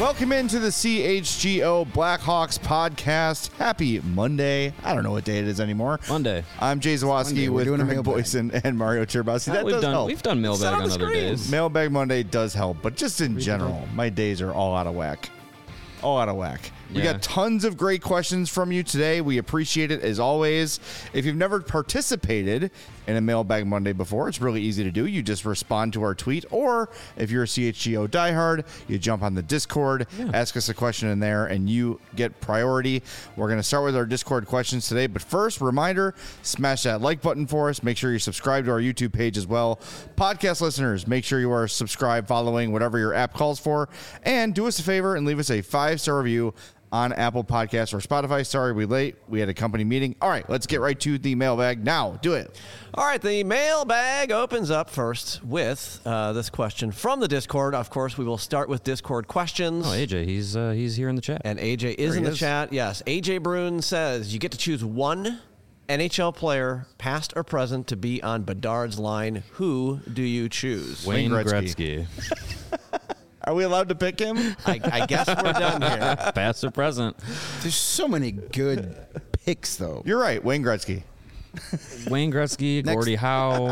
Welcome into the CHGO Blackhawks podcast. Happy Monday. I don't know what day it is anymore. Monday. I'm Jay Zawoski with Greg Boyson and Mario Turbowski. That does help. We've done mailbag on other days. Mailbag Monday does help, but just in general, my days are all out of whack. All out of whack. We got tons of great questions from you today. We appreciate it as always. If you've never participated in a Mailbag Monday before, it's really easy to do. You just respond to our tweet, or if you're a CHGO diehard, you jump on the Discord, ask us a question in there, and you get priority. We're going to start with our Discord questions today, but first, reminder, smash that like button for us. Make sure you subscribe to our YouTube page as well. Podcast listeners, make sure you are subscribed, following whatever your app calls for, and do us a favor and leave us a 5-star review on Apple Podcasts or Spotify. Sorry, we late. We had a company meeting. All right, let's get right to the mailbag now. Do it. All right, the mailbag opens up first with this question from the Discord. Of course, we will start with Discord questions. Oh, AJ, he's here in the chat. And AJ is in the chat. Yes, AJ Bruin says you get to choose one NHL player, past or present, to be on Bedard's line. Who do you choose? Wayne Gretzky. Are we allowed to pick him? I guess we're done here. Past or present? There's so many good picks, though. You're right, Wayne Gretzky. Wayne Gretzky, Gordie Howe,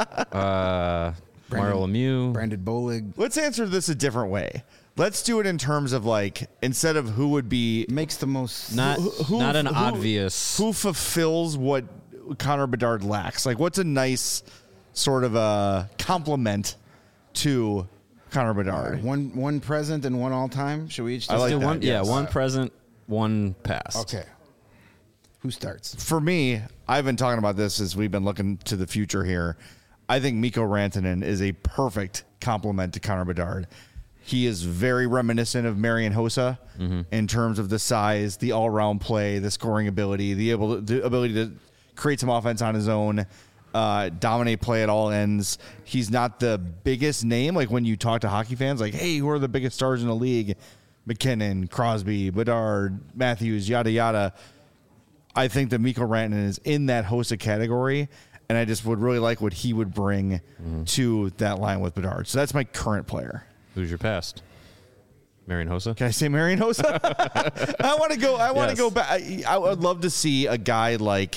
Mario Lemieux. Brandon Bolig. Let's answer this a different way. Let's do it in terms of, like, instead of who would be... Makes the most... Not an obvious... Who fulfills what Connor Bedard lacks? Like, what's a nice sort of a compliment to Connor Bedard? One present and one all-time? Should we each just like do that. one? Yeah, one present, one past. Okay. Who starts? For me, I've been talking about this as we've been looking to the future here. I think Mikko Rantanen is a perfect compliment to Connor Bedard. He is very reminiscent of Marian Hossa in terms of the size, the all-around play, the scoring ability, the ability to create some offense on his own, dominate play at all ends. He's not the biggest name. Like when you talk to hockey fans, like, hey, who are the biggest stars in the league? McKinnon, Crosby, Bedard, Matthews, yada, yada. I think that Mikko Rantanen is in that Hossa category, and I just would really like what he would bring to that line with Bedard. So that's my current player. Who's your past? Marian Hossa? Can I say Marian Hossa? I want to go. I want to go back. I would love to see a guy like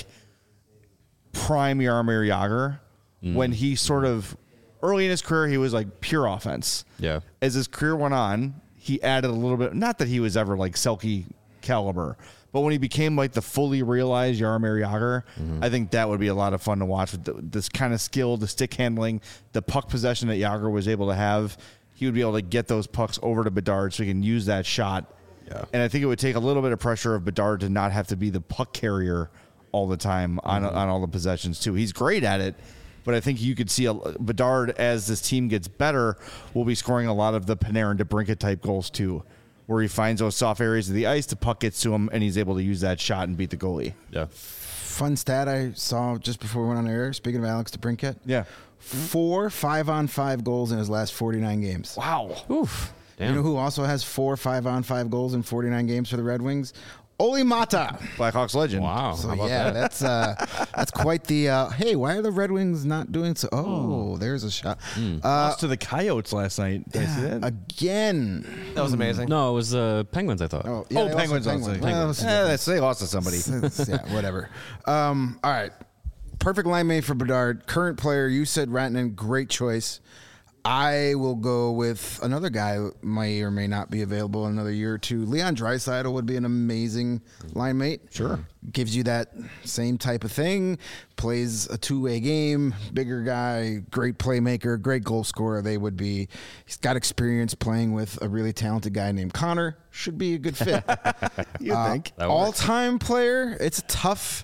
prime Jaromir Jagr when he sort of early in his career he was like pure offense. Yeah. As his career went on, he added a little bit. Not that he was ever like Selke caliber, but when he became like the fully realized Jaromir Jagr, I think that would be a lot of fun to watch with this kind of skill, the stick handling, the puck possession that Jagr was able to have. He would be able to get those pucks over to Bedard so he can use that shot. Yeah. And I think it would take a little bit of pressure of Bedard to not have to be the puck carrier all the time on all the possessions too. He's great at it, but I think you could see Bedard, as this team gets better, will be scoring a lot of the Panarin DeBrincat type goals too, where he finds those soft areas of the ice, the puck gets to him, and he's able to use that shot and beat the goalie. Yeah. Fun stat I saw just before we went on air, speaking of Alex DeBrincat. Yeah. 4 5-on-5 goals in his last 49 games. Wow. Oof. Damn. You know who also has 4 5-on-5 goals in 49 games for the Red Wings? Oli Mata. Blackhawks legend. Wow. So How about yeah, that? that's quite the hey, why are the Red Wings not doing so? Oh, there's a shot. Lost to the Coyotes last night. Did I see that? Again. That was amazing. No, it was Penguins, I thought. Oh, Oh, they Penguins. also- Well, they lost to somebody. Yeah, whatever. All right. Perfect line mate for Bedard. Current player, you said Rantanen, great choice. I will go with another guy who may or may not be available in another year or two. Leon Draisaitl would be an amazing line mate. Sure. Gives you that same type of thing. Plays a two-way game. Bigger guy, great playmaker, great goal scorer. He's got experience playing with a really talented guy named Connor. Should be a good fit. You think? All-time player, it's a tough...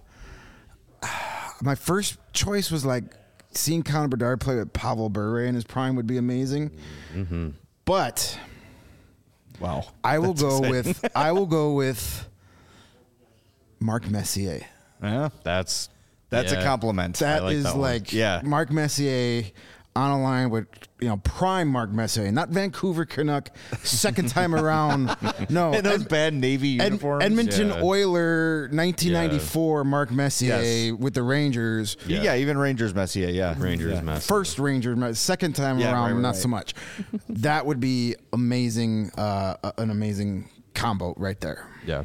My first choice was like seeing Connor Bedard play with Pavel Bure in his prime would be amazing. But Wow. I will go with Mark Messier. Yeah. That's a compliment. That like is that one. like Yeah. Mark Messier. on a line with prime Mark Messier, not Vancouver Canuck, second time around. No, And those bad Navy uniforms. Edmonton Yeah. Oiler 1994 Mark Messier Yes. with the Rangers. Yeah, even Rangers Messier. Yeah, Rangers Yeah. mess. First Rangers, second time Yeah, around, right, not right. so much. That would be amazing, an amazing combo right there. Yeah.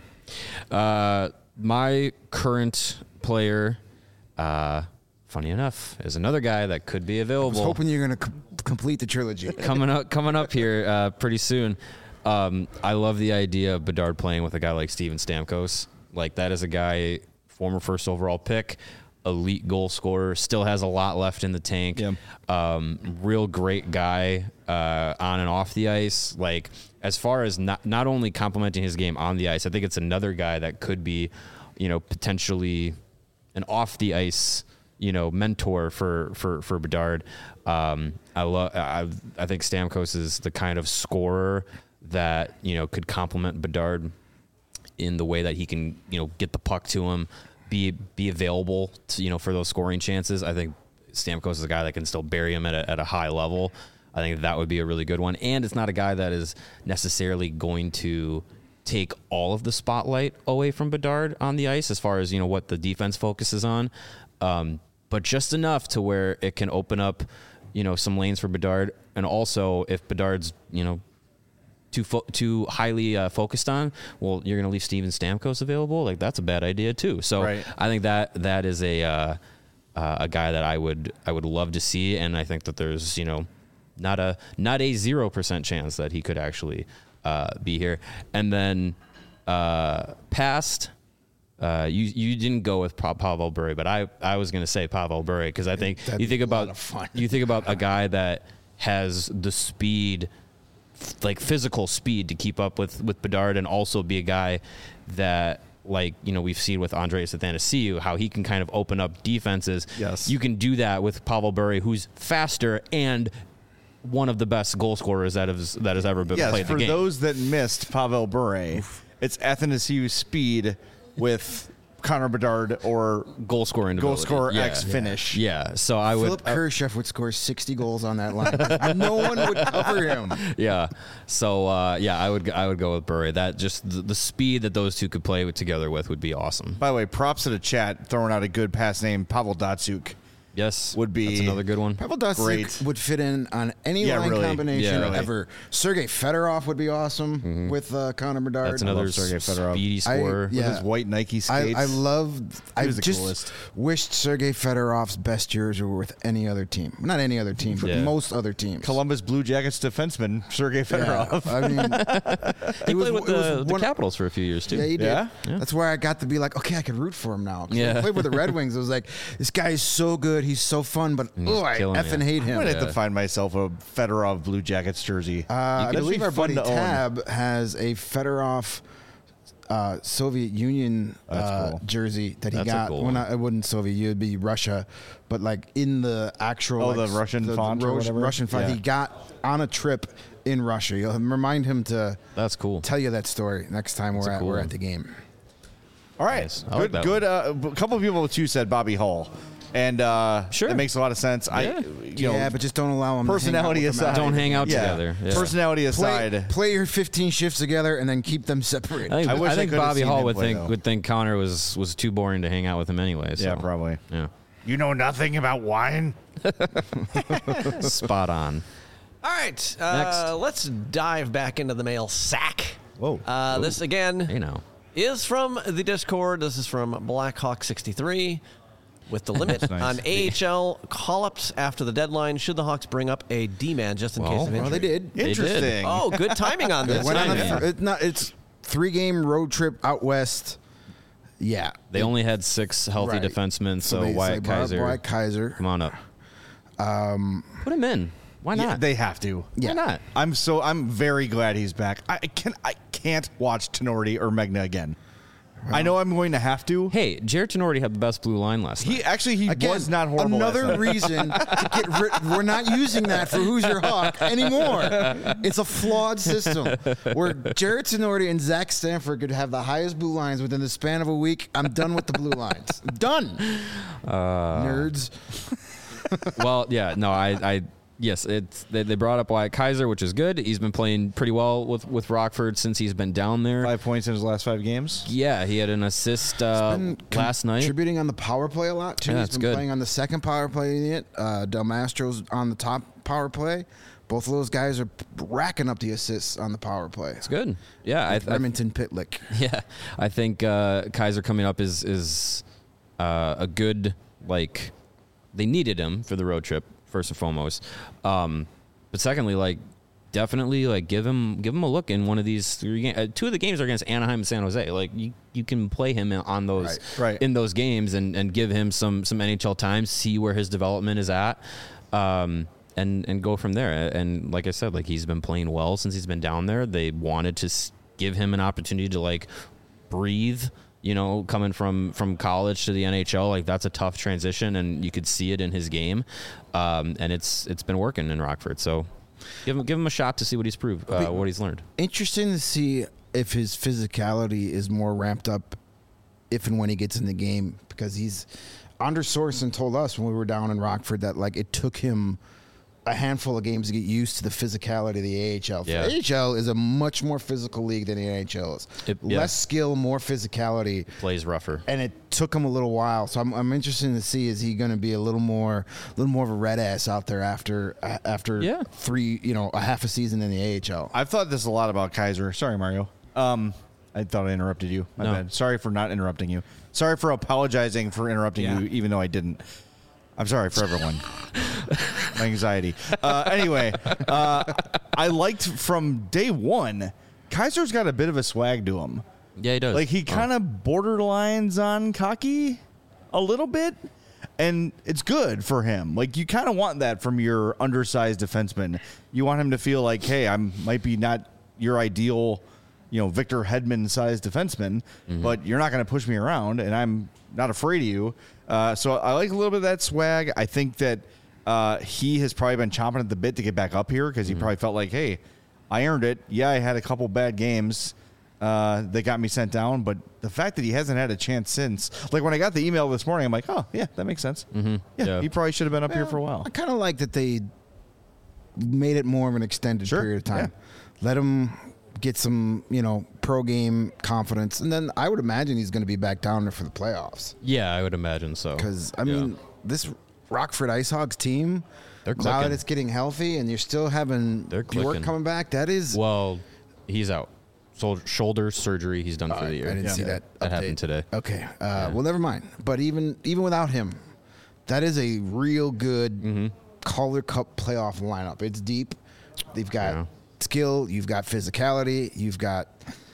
My current player, funny enough, is another guy that could be I was available. hoping you're going to complete the trilogy. coming up here pretty soon. I love the idea of Bedard playing with a guy like Steven Stamkos. Like, that is a guy, former first overall pick, elite goal scorer, still has a lot left in the tank. Yeah. Real great guy on and off the ice. Like, as far as not only complimenting his game on the ice, I think it's another guy that could be, potentially an off the ice, mentor for Bedard. I think Stamkos is the kind of scorer that could complement Bedard in the way that he can get the puck to him, be available to, for those scoring chances. I think Stamkos is a guy that can still bury him at a high level. I think that would be a really good one, and it's not a guy that is necessarily going to take all of the spotlight away from Bedard on the ice as far as what the defense focuses on, but just enough to where it can open up some lanes for Bedard. And also, if Bedard's too highly focused on, well, you're going to leave Steven Stamkos available. Like, that's a bad idea too. So Right. I think that is a guy that I would love to see, and I think that there's not a 0% chance that he could actually be here. And then past. You didn't go with Pavel Bure, but I was going to say Pavel Bure because I think That'd you think be a lot about of fun. you think about a guy that has the speed, like physical speed, to keep up with Bedard, and also be a guy that, like, we've seen with Andreas Athanasiou, how he can kind of open up defenses. Yes. You can do that with Pavel Bure, who's faster and one of the best goal scorers that has ever been Yes, played in for the game. those that missed Pavel Bure, it's Athanasiou's speed with Connor Bedard or goal scoring goal ability. scorer Yeah. X finish. Yeah, so I would. Philip Kurashev would score 60 goals on that line. No one would cover him. Yeah. So I would go with Bure. That just the speed that those two could play together with would be awesome. By the way, props to the chat throwing out a good pass name. Pavel Datsuk Yes, would be that's another good one. Pavel Datsyuk Great. would fit in on any Yeah, line really. combination Yeah, really. ever. Sergei Fedorov would be awesome with Connor Bedard. That's another Sergei Fedorov. speedy scorer. Yeah. with his white Nike skates. I loved. I was the just coolest. wished Sergei Fedorov's best years were with any other team. Not any other team, but Yeah. most other teams. Columbus Blue Jackets defenseman Sergei Yeah, Fedorov. I mean, He played with it was the one- Capitals for a few years too. Yeah, he did. Yeah? That's where I got to be like, okay, I can root for him now. 'Cause when Yeah. I played with the Red Wings. It was like, this guy is so good. He's so fun, but he's oh, I killing effing you. hate I'm him. gonna have to find myself a Fedorov Blue Jackets jersey. I That'd believe be our fun buddy to own. Tab has a Fedorov Soviet Union That's cool. jersey that he That's a got cool when one. I wouldn't Soviet, it would be Russia, but like in the actual Oh, like, the Russian font or whatever? Russian font Yeah. he got on a trip in Russia. You'll remind him to That's cool. tell you that story next time a cool we're one. at the game. All right, Nice. I like that good. A couple of people too said Bobby Hull, and Sure. it makes a lot of sense. Yeah. Yeah, but just don't allow him. personality to hang out with them aside, Don't hang out Yeah. together. Yeah. Personality aside, Play your 15 shifts together and then keep them separated. I I wish I think could've Bobby seen Hall him would play, think though. Connor was too boring to hang out with him anyway. So. yeah, probably. Yeah. You know nothing about wine. Spot on. All right, let's dive back into the mail sack. Whoa. This again Hey now. is from the Discord. This is from Blackhawk63. With the limit nice. on AHL call-ups after the deadline, should the Hawks bring up a D-man just in case of injury? Well, they did. did. Interesting. Oh, good timing on this. Went on timing. it's 3-game road trip out west. Yeah. They only had 6 healthy Right. defensemen, so they Wyatt brought up Kaiser. Wyatt Kaiser. Come on up. Put him in. Why Yeah, not? they have to. Yeah. Why not? I'm very glad he's back. I can't watch Tenorti or Megna again. I know I'm going to have to. Hey, Jared Tenorti had the best blue line last night. He Again, was not horrible. Another last night. reason to get rid. We're not using that for Who's Your Hawk anymore. It's a flawed system where Jared Tenorti and Zach Stanford could have the highest blue lines within the span of a week. I'm done with the blue lines. Done. Nerds. Well, yeah, no, I Yes, they brought up Wyatt Kaiser, which is good. He's been playing pretty well with Rockford since he's been down there. 5 points in his last 5 games. Yeah, he had an assist last night. Contributing on the power play a lot, too. Yeah, He's that's been good. playing on the second power play unit. Del Mastro's on the top power play. Both of those guys are racking up the assists on the power play. It's good. Yeah, Remington Pitlick. Yeah, I think Kaiser coming up is a good, like, they needed him for the road trip first and foremost, but secondly, like, definitely, like, give him a look in one of these 3 games. 2 of the games are against Anaheim and San Jose. Like, you can play him on those Right. in those games and give him some NHL time, see where his development is at. And go from there. And like I said, like, he's been playing well since he's been down there. They wanted to give him an opportunity to, like, breathe, you know, coming from college to the NHL. Like, that's a tough transition, and you could see it in his game. And it's been working in Rockford. So give him a shot to see what he's proved, what he's learned. Interesting to see if his physicality is more ramped up if and when he gets in the game, because he's Anders Sorensen told us when we were down in Rockford that, like, it took him a handful of games to get used to the physicality of the AHL. Yeah. The AHL is a much more physical league than the NHL is. Less skill, more physicality. Plays rougher. And it took him a little while, so I'm interested to see, is he going to be a little more of a red ass out there after Yeah. 3, a half a season in the AHL. I've thought this a lot about Kaiser. Sorry, Mario. I thought I interrupted you. My No. bad. Sorry for not interrupting you. Sorry for apologizing for interrupting you, even though I didn't. I'm sorry for everyone. My anxiety. Anyway, I liked from day one, Kaiser's got a bit of a swag to him. Yeah, he does. Like, he kind of borderlines on cocky a little bit, and it's good for him. Like, you kind of want that from your undersized defenseman. You want him to feel like, hey, I might be not your ideal, Victor Hedman-sized defenseman, but you're not going to push me around, and I'm not afraid of you. So I like a little bit of that swag. I think that he has probably been chomping at the bit to get back up here because he probably felt like, hey, I earned it. Yeah, I had a couple bad games that got me sent down, but the fact that he hasn't had a chance since, like, when I got the email this morning, I'm like, oh, yeah, that makes sense. Yeah, he probably should have been up here for a while. I kind of like that they made it more of an extended period of time. Let him get some, pro game confidence, and then I would imagine he's going to be back down there for the playoffs. Yeah, I would imagine so. Because, I mean, this Rockford Ice Hogs team, They're now clicking. that it's getting healthy and you're still having They're Bjork clicking. coming back, that is... Well, he's out. Shoulder surgery. He's done for the year. I didn't see that That update. happened today. Okay. Well, never mind. But even without him, that is a real good Calder Cup playoff lineup. It's deep. They've got skill. You've got physicality. You've got,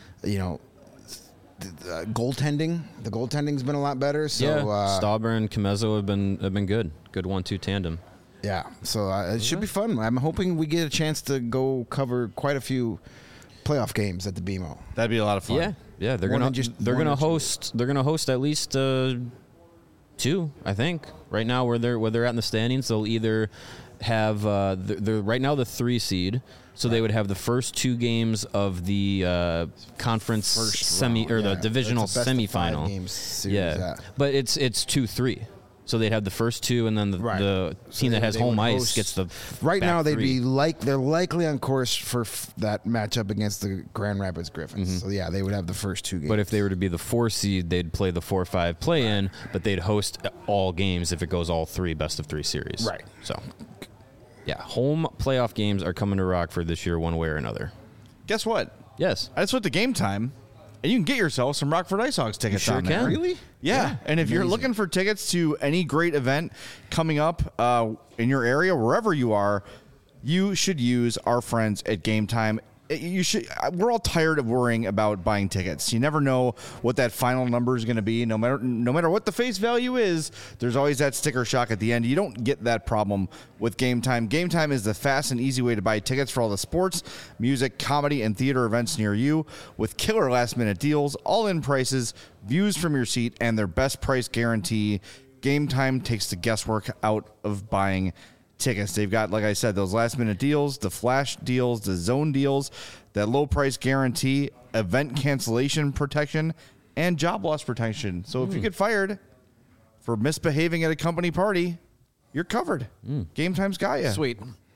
goaltending. The goaltending's been a lot better. So, Stauber and Comezzo have been good. Good 1-2 tandem. Yeah. So it should be fun. I'm hoping we get a chance to go cover quite a few playoff games at the BMO. That'd be a lot of fun. Yeah. They're More gonna than just they're one gonna or two. host at least 2, I think. Right now, where they're at in the standings, they'll either have they're right now the 3 seed, so they would have the first 2 games of the conference the divisional It's a best of 5 semifinal. games series, Yeah, but it's 2-3. So they'd have the first 2, and then the So team that they has would home ice host- gets the Right back now, they'd 3. they're likely on course for that matchup against the Grand Rapids Griffins. So yeah, they would have the first 2 games. But if they were to be the 4 seed, they'd play the 4-5 play-in, but they'd host all games if it goes all 3 best-of-3 series. Right. So, yeah, home playoff games are coming to Rockford this year one way or another. Guess what? Yes. I just went to Game Time, and you can get yourself some Rockford Ice Hogs tickets sure on there. can. Really? Yeah. And if you're looking for tickets to any great event coming up in your area, wherever you are, you should use our friends at Game Time. We're all tired of worrying about buying tickets. You never know what that final number is going to be. No matter what the face value is, there's always that sticker shock at the end. You don't get that problem with Game Time. Game Time is the fast and easy way to buy tickets for all the sports, music, comedy, and theater events near you with killer last-minute deals, all-in prices, views from your seat, and their best price guarantee. Game Time takes the guesswork out of buying tickets. They've got, like I said, those last minute deals, the flash deals, the zone deals, that low price guarantee, event cancellation protection, and job loss protection. So if you get fired for misbehaving at a company party, you're covered. Game Time's got you. Sweet.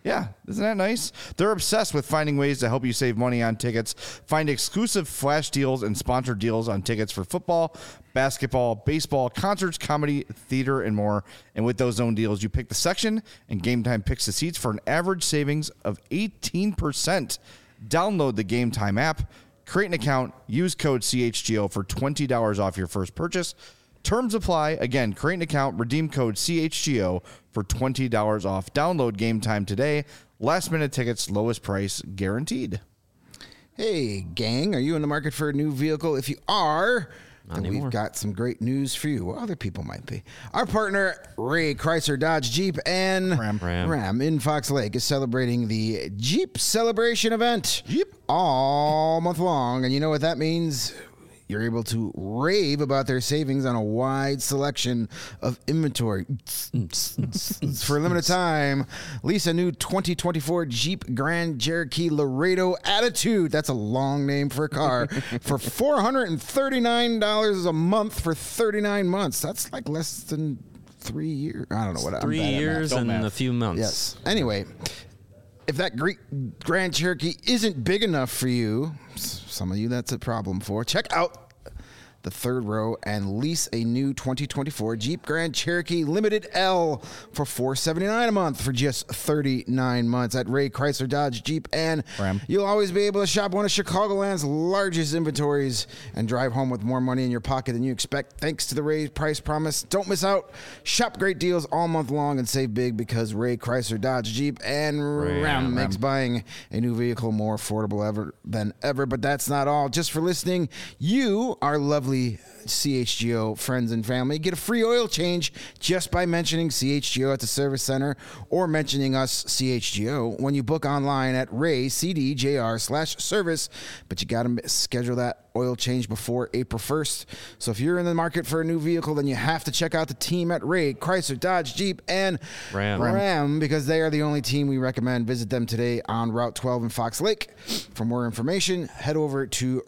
Yeah, isn't that nice? They're obsessed with finding ways to help you save money on tickets. Find exclusive flash deals and sponsored deals on tickets for football, basketball, baseball, concerts, comedy, theater, and more. And with those zone deals, you pick the section, and Game Time picks the seats for an average savings of 18%. Download the Game Time app, create an account, use code CHGO for $20 off your first purchase. Terms apply. Again, create an account, redeem code CHGO for $20 off. Download Game Time today. Last minute tickets, lowest price guaranteed. Hey, gang, are you in the market for a new vehicle? If you are, then we've got some great news for you. Well, other people might be. Our partner, Ray Chrysler Dodge Jeep and Ram in Fox Lake is celebrating the Jeep Celebration event all month long. And you know what that means? You're able to rave about their savings on a wide selection of inventory. For a limited time, lease a new 2024 Jeep Grand Cherokee Laredo Attitude. That's a long name for a car. For $439 a month for 39 months. That's like less than 3 years. I don't know what. 3 years and a few months. Yes. Anyway, if that Grand Cherokee isn't big enough for you, some of you that's a problem for, check out the third row and lease a new 2024 Jeep Grand Cherokee Limited L for $479 a month for just 39 months at Ray Chrysler Dodge Jeep and Ram. You'll always be able to shop one of Chicagoland's largest inventories and drive home with more money in your pocket than you expect thanks to the Ray Price Promise. Don't miss out. Shop great deals all month long and save big because Ray Chrysler Dodge Jeep and Ram makes buying a new vehicle more affordable than ever. But that's not all. Just for listening, you, our lovely CHGO friends and family, get a free oil change just by mentioning CHGO at the service center or mentioning us CHGO when you book online at raycdjr/service. But you got to schedule that oil change before April 1st. So if you're in the market for a new vehicle, then you have to check out the team at Ray Chrysler Dodge Jeep and Ram because they are the only team we recommend. Visit them today on Route 12 in Fox Lake. For more information, head over to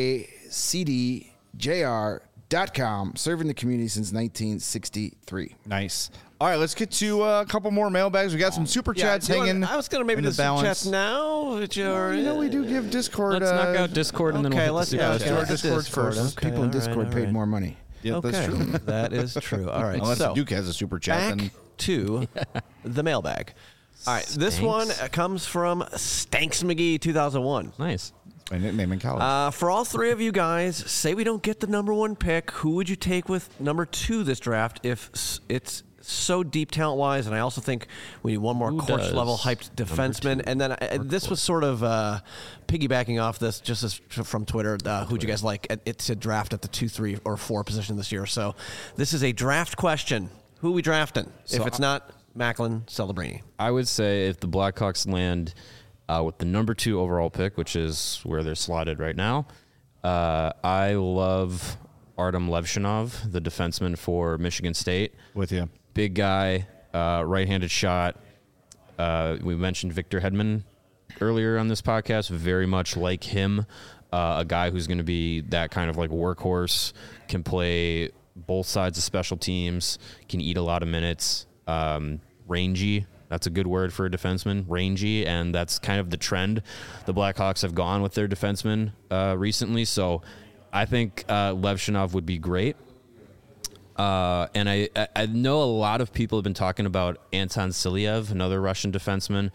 raycdjr.com, serving the community since 1963. Nice. All right, let's get to a couple more mailbags. We got some super chats hanging. I was going to maybe do super chats now. We do give Discord. Let's knock out Discord and then we'll hit the super chats. Discord first. People in Discord paid more money. Yeah, that's true. That is true. All right. Unless Duke has a super chat. Back to the mailbag. All right. This one comes from Stanks McGee 2001. Nice. My nickname in college. For all three of you guys, say we don't get the number one pick, who would you take with number 2 this draft if it's so deep talent-wise? And I also think we need one more course-level hyped defenseman. And then this was sort of piggybacking off this just from Twitter. Who'd you guys like? It's a draft at the 2, 3, or 4 position this year. So this is a draft question. Who are we drafting? So if it's not Macklin, Celebrini. I would say if the Blackhawks land with the number 2 overall pick, which is where they're slotted right now, I love Artem Levshinov, the defenseman for Michigan State. With you. Big guy, right-handed shot. We mentioned Victor Hedman earlier on this podcast, very much like him, a guy who's going to be that kind of like workhorse, can play both sides of special teams, can eat a lot of minutes, rangy. That's a good word for a defenseman, rangy, and that's kind of the trend the Blackhawks have gone with their defensemen recently. So I think Levshinov would be great. And I know a lot of people have been talking about Anton Silyev, another Russian defenseman,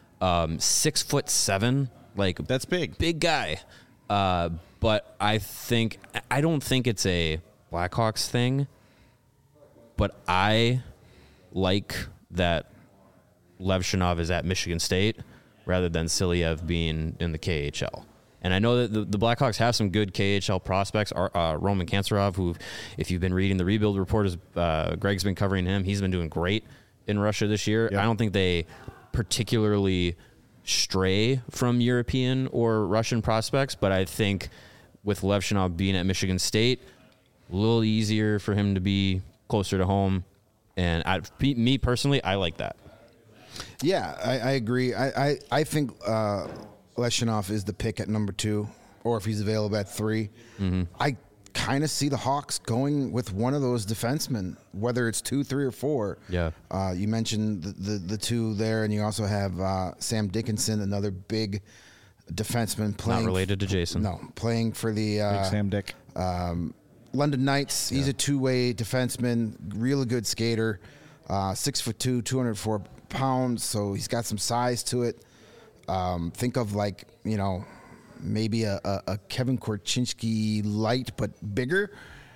6'7", like that's big guy. But I don't think it's a Blackhawks thing. But I like that Levshinov is at Michigan State rather than Silyev being in the KHL. And I know that the Blackhawks have some good KHL prospects. Roman Kantsarov, who, if you've been reading the rebuild report, Greg's been covering him. He's been doing great in Russia this year. Yep. I don't think they particularly stray from European or Russian prospects, but I think with Levshinov being at Michigan State, a little easier for him to be closer to home. And me personally, I like that. Yeah, I agree. I think Levshinov is the pick at number 2, or if he's available at 3. Mm-hmm. I kind of see the Hawks going with one of those defensemen, whether it's 2, 3, or 4. Yeah. You mentioned the two there, and you also have Sam Dickinson, another big defenseman playing. Not related to Jason. No, playing for the Big Sam Dick. London Knights. He's a two-way defenseman, really good skater, 6'2", 204 pounds. So he's got some size to it. Think of maybe a Kevin Korchinski light, but bigger.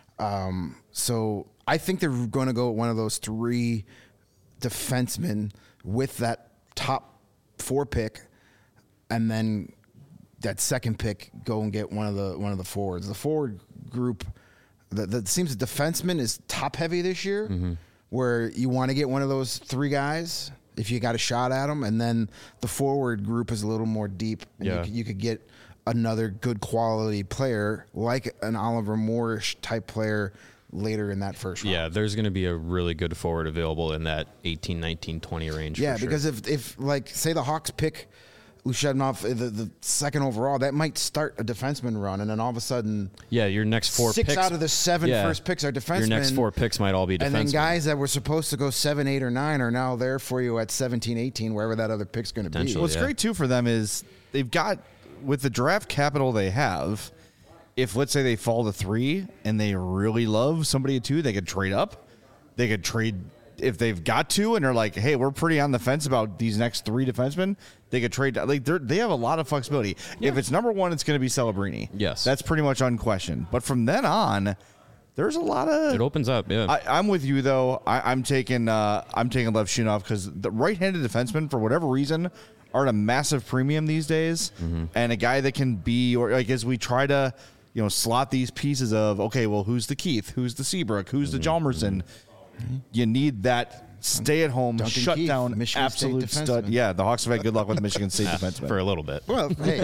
So I think they're going to go with one of those 3 defensemen with that top 4 pick, and then that second pick go and get one of the forwards. The forward group, that seems the defenseman is top heavy this year, where you want to get one of those 3 guys if you got a shot at them, and then the forward group is a little more deep. And you could get another good quality player like an Oliver Moorish type player later in that first round. Yeah, there's going to be a really good forward available in that 18, 19, 20 range. Yeah, for sure. because if say the Hawks pick Ushadnov the second overall, that might start a defenseman run, and then all of a sudden, your next 4 6 picks, out of the 7 first picks are defensemen. Your next 4 picks might all be defensemen. And then guys that were supposed to go 7, 8, or 9 are now there for you at 17, 18, wherever that other pick's going to be. What's great too for them is they've got, with the draft capital they have, if let's say they fall to 3 and they really love somebody at 2, they could trade up. They could trade if they've got to, and they're like, hey, we're pretty on the fence about these next 3 defensemen. They could trade. They have a lot of flexibility. If it's number 1, it's going to be Celebrini. Yes, that's pretty much unquestioned. But from then on, there's a lot of. It opens up. Yeah, I'm with you though. I'm taking Lev Shunov because the right-handed defensemen, for whatever reason, are at a massive premium these days, and a guy that can be, or like as we try to, slot these pieces of, okay, well, who's the Keith, who's the Seabrook, who's the Hjalmarsson. You need that stay-at-home, Duncan shut Keith, down, Michigan absolute State stud. defenseman. Yeah, the Hawks have had good luck with Michigan State defensemen for a little bit. Well, hey,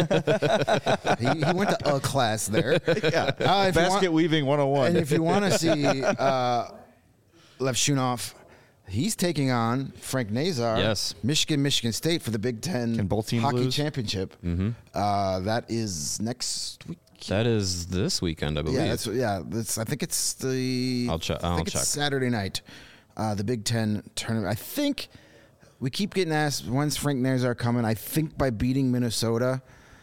he went to a class there. Yeah, if you basket weaving 101. And if you want to see Lev Shunov, he's taking on Frank Nazar. Yes. Michigan State for the Big Ten Can both teams hockey lose? championship. That is next week. That is this weekend, I believe. I think it's the. I'll check. I think it's Saturday night. The Big Ten tournament. I think we keep getting asked when's Frank Nazar coming. I think by beating Minnesota.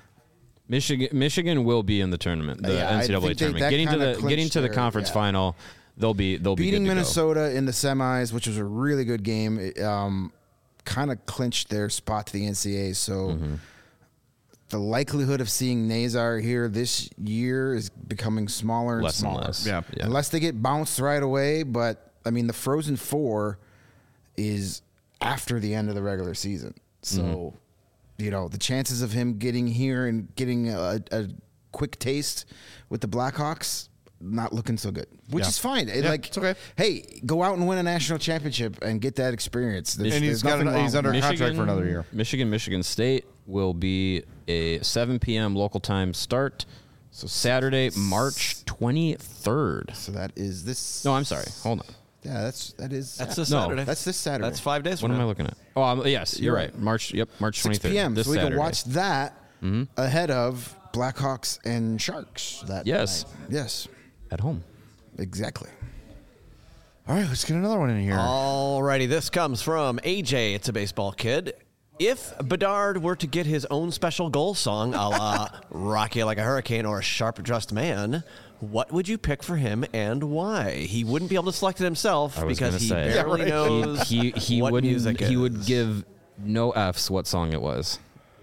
Michigan will be in the tournament, the NCAA tournament. Getting to the conference final, they'll be beating good to Minnesota in the semis, which was a really good game. Kind of clinched their spot to the NCAA. So the likelihood of seeing Nazar here this year is becoming smaller and smaller. And less. Yeah. Unless they get bounced right away. But I mean, the Frozen Four is after the end of the regular season. So, the chances of him getting here and getting a quick taste with the Blackhawks, not looking so good, which is fine. It's okay. Hey, go out and win a national championship and get that experience. And he's under contract for another year. Michigan State will be a 7 p.m. local time start. So Saturday, March 23rd. So that is this. No, I'm sorry. Hold on. Yeah, that's this Saturday. Saturday. That's this Saturday. That's 5 days from What now. am I looking at? Oh, yes, you're right. March 23rd. 6 p.m. This So we Saturday. can watch that ahead of Blackhawks and Sharks. Yes. night. Yes. At home. Exactly. All right, let's get another one in here. Alrighty, this comes from AJ. It's a baseball kid. If Bedard were to get his own special goal song, a la Rock You Like a Hurricane or Sharp Dressed Man, what would you pick for him and why? He wouldn't be able to select it himself I was because gonna he say. barely knows He what wouldn't. music He is. would give no F's what song it was.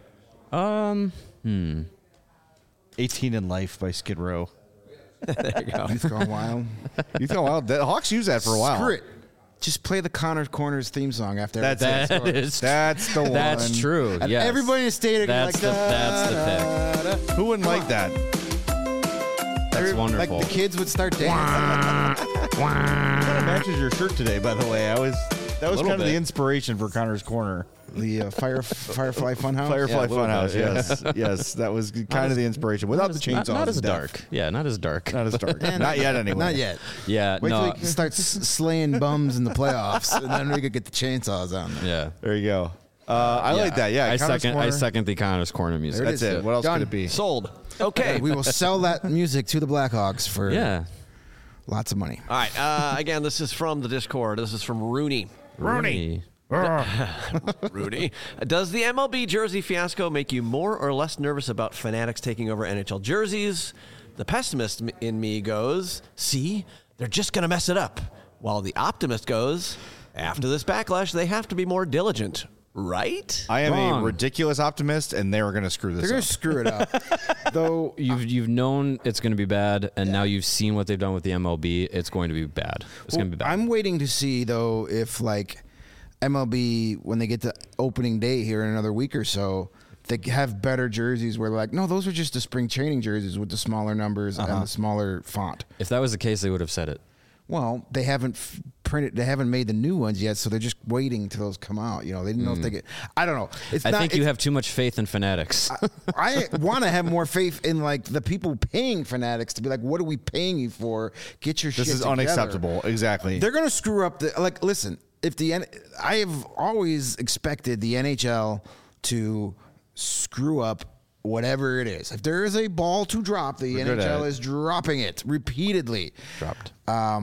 18 in Life by Skid Row. There you go. Youth Gone Wild. Youth Gone Wild. The Hawks use that for a while. Screw it. Just play the Connor Corners theme song after That's everything. it. Is That's the one. That's true. And Yes. everybody in the stadium That's like, the pick. Who wouldn't like that? That's wonderful. Like the kids would start dancing. Kind of matches your shirt today, by the way. That was Little kind of the bit. inspiration for Connor's Corner. The Firefly Funhouse. Firefly a little Funhouse. bit, yeah. Yes, yes, that was kind of the inspiration. Without the chainsaws, not as and death. dark. Yeah, not as dark. Not as dark. Not yet, anyway. Not yet. Yeah, Wait till no. he starts slaying bums in the playoffs, and then we could get the chainsaws on there. Yeah. There you go. I like that. Yeah, I Connor's Corner. second the Connor's Corner music. That's it. What else Done. could it be? Sold. Okay. We will sell that music to the Blackhawks for Yeah. lots of money. All right. Again, this is from the Discord. This is from Rooney. Rooney. Rudy. Does the MLB jersey fiasco make you more or less nervous about Fanatics taking over NHL jerseys? The pessimist in me goes, see, they're just going to mess it up. While the optimist goes, after this backlash, they have to be more diligent. Right? I am Wrong. a ridiculous optimist, and they're going to screw this They're going up. to screw it up. Though You've known it's going to be bad, and now you've seen what they've done with the MLB. It's going to be bad. It's going to be bad. I'm waiting to see, though, if, like, MLB, when they get to opening day here in another week or so, they have better jerseys where they're like, no, those are just the spring training jerseys with the smaller numbers and the smaller font. If that was the case, they would have said it. Well, they haven't printed, they haven't made the new ones yet, so they're just waiting till those come out. You know, they didn't know if they get. I don't know. I think you have too much faith in Fanatics. I want to have more faith in like the people paying Fanatics to be like, what are we paying you for? Get your shit This is together. unacceptable. Exactly. They're gonna screw up the like. Listen, if I have always expected the NHL to screw up whatever it is. If there is a ball to drop, the We're good at NHL it. is dropping it repeatedly. Dropped.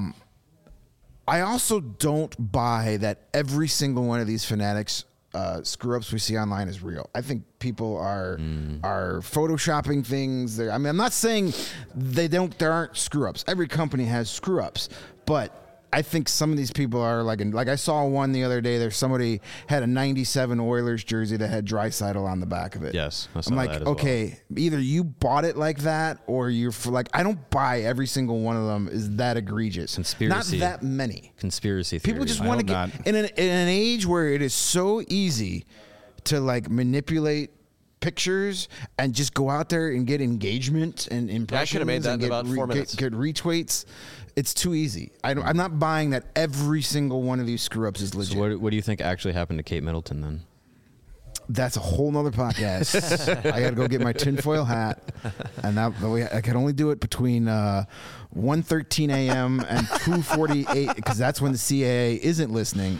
I also don't buy that every single one of these Fanatics screw ups we see online is real. I think people are photoshopping things. I mean, I'm not saying there aren't screw ups. Every company has screw ups, but I think some of these people are like I saw one the other day. There's somebody had a '97 Oilers jersey that had Draisaitl on the back of it. Yes, I saw I'm like, that as well. okay, either you bought it like that, or you're like, I don't buy every single one of them is that egregious. Conspiracy. Not that many. Conspiracy theory. People just I want to hope get not. in an age where it is so easy to like manipulate pictures and just go out there and get engagement and impressions. made that and in get about 4 minutes. Get retweets. It's too easy. I'm not buying that every single one of these screw ups is legit. So what do you think actually happened to Kate Middleton then? That's a whole nother podcast. I got to go get my tinfoil hat, and I can only do it between 1:13 a.m. and 2:48 because that's when the CAA isn't listening.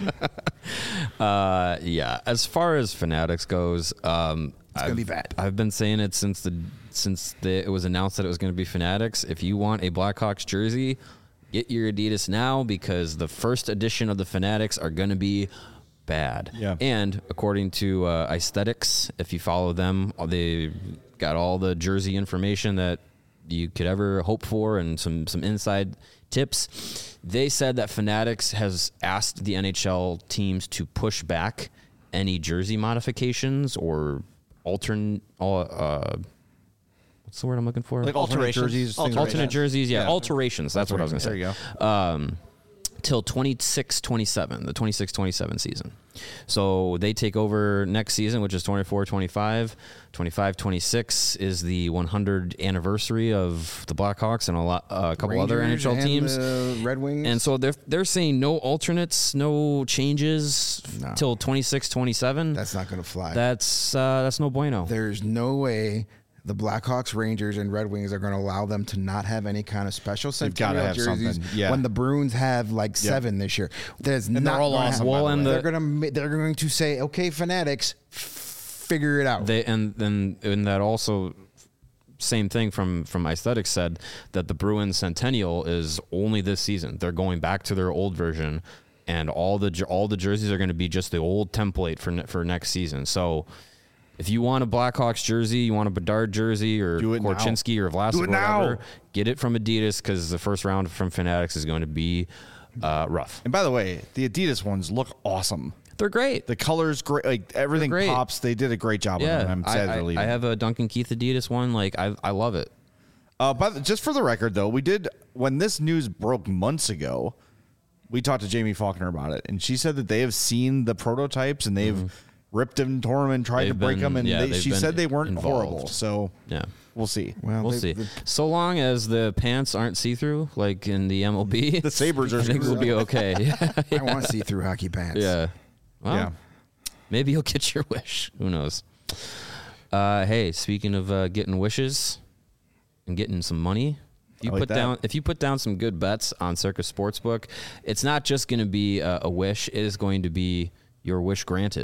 Yeah. As far as Fanatics goes, it's gonna be bad. I've been saying it since it was announced that it was going to be Fanatics. If you want a Blackhawks jersey, get your Adidas now because the first edition of the Fanatics are going to be bad. Yeah. And according to Aesthetics, if you follow them, they got all the jersey information that you could ever hope for and some inside tips. They said that Fanatics has asked the NHL teams to push back any jersey modifications or what's the word I'm looking for? Like alternate jerseys. things like Alternate that. jerseys, yeah. Yeah. Alterations. That's what I was going to say. There you go. Till 26-27, the 26-27 season. So they take over next season, which is 24-25. 25-26 is the 100th anniversary of the Blackhawks and a couple other Rangers NHL and teams. the Red Wings. And so they're saying no alternates, no changes No. till 26-27. That's not going to fly. That's no bueno. There's no way the Blackhawks, Rangers, and Red Wings are going to allow them to not have any kind of special They've gotta centennial have jerseys something, yeah. when the Bruins have like 7 this year. There's they're not all gonna awesome, have- by the way. they're going to say, okay, Fanatics, figure it out. And that also same thing from Aesthetics said that the Bruins Centennial is only this season. They're going back to their old version, and all the jerseys are going to be just the old template for next season. So if you want a Blackhawks jersey, you want a Bedard jersey or Do it now. Korchinski or Vlasic Do or it now. whatever, get it from Adidas because the first round from Fanatics is going to be rough. And by the way, the Adidas ones look awesome. They're great. The colors great. Like everything They're great. pops. They did a great job on Yeah, them. I'm sad they're leaving. I have a Duncan Keith Adidas one. Like I love it. But just for the record, though, we did when this news broke months ago. We talked to Jamie Faulkner about it, and she said that they have seen the prototypes and they've ripped them, tore them, and tried to They've break been- them. And yeah, they've she been said they weren't involved. horrible. So Yeah. we'll see. Well, We'll see. So long as the pants aren't see-through, like in the MLB, The Sabres are I think we'll screwed be okay. I want to see through hockey pants. Yeah. Well, Yeah. maybe you'll get your wish. Who knows? Hey, speaking of getting wishes and getting some money, if you put down some good bets on Circus Sportsbook, it's not just going to be a wish; it is going to be your wish granted.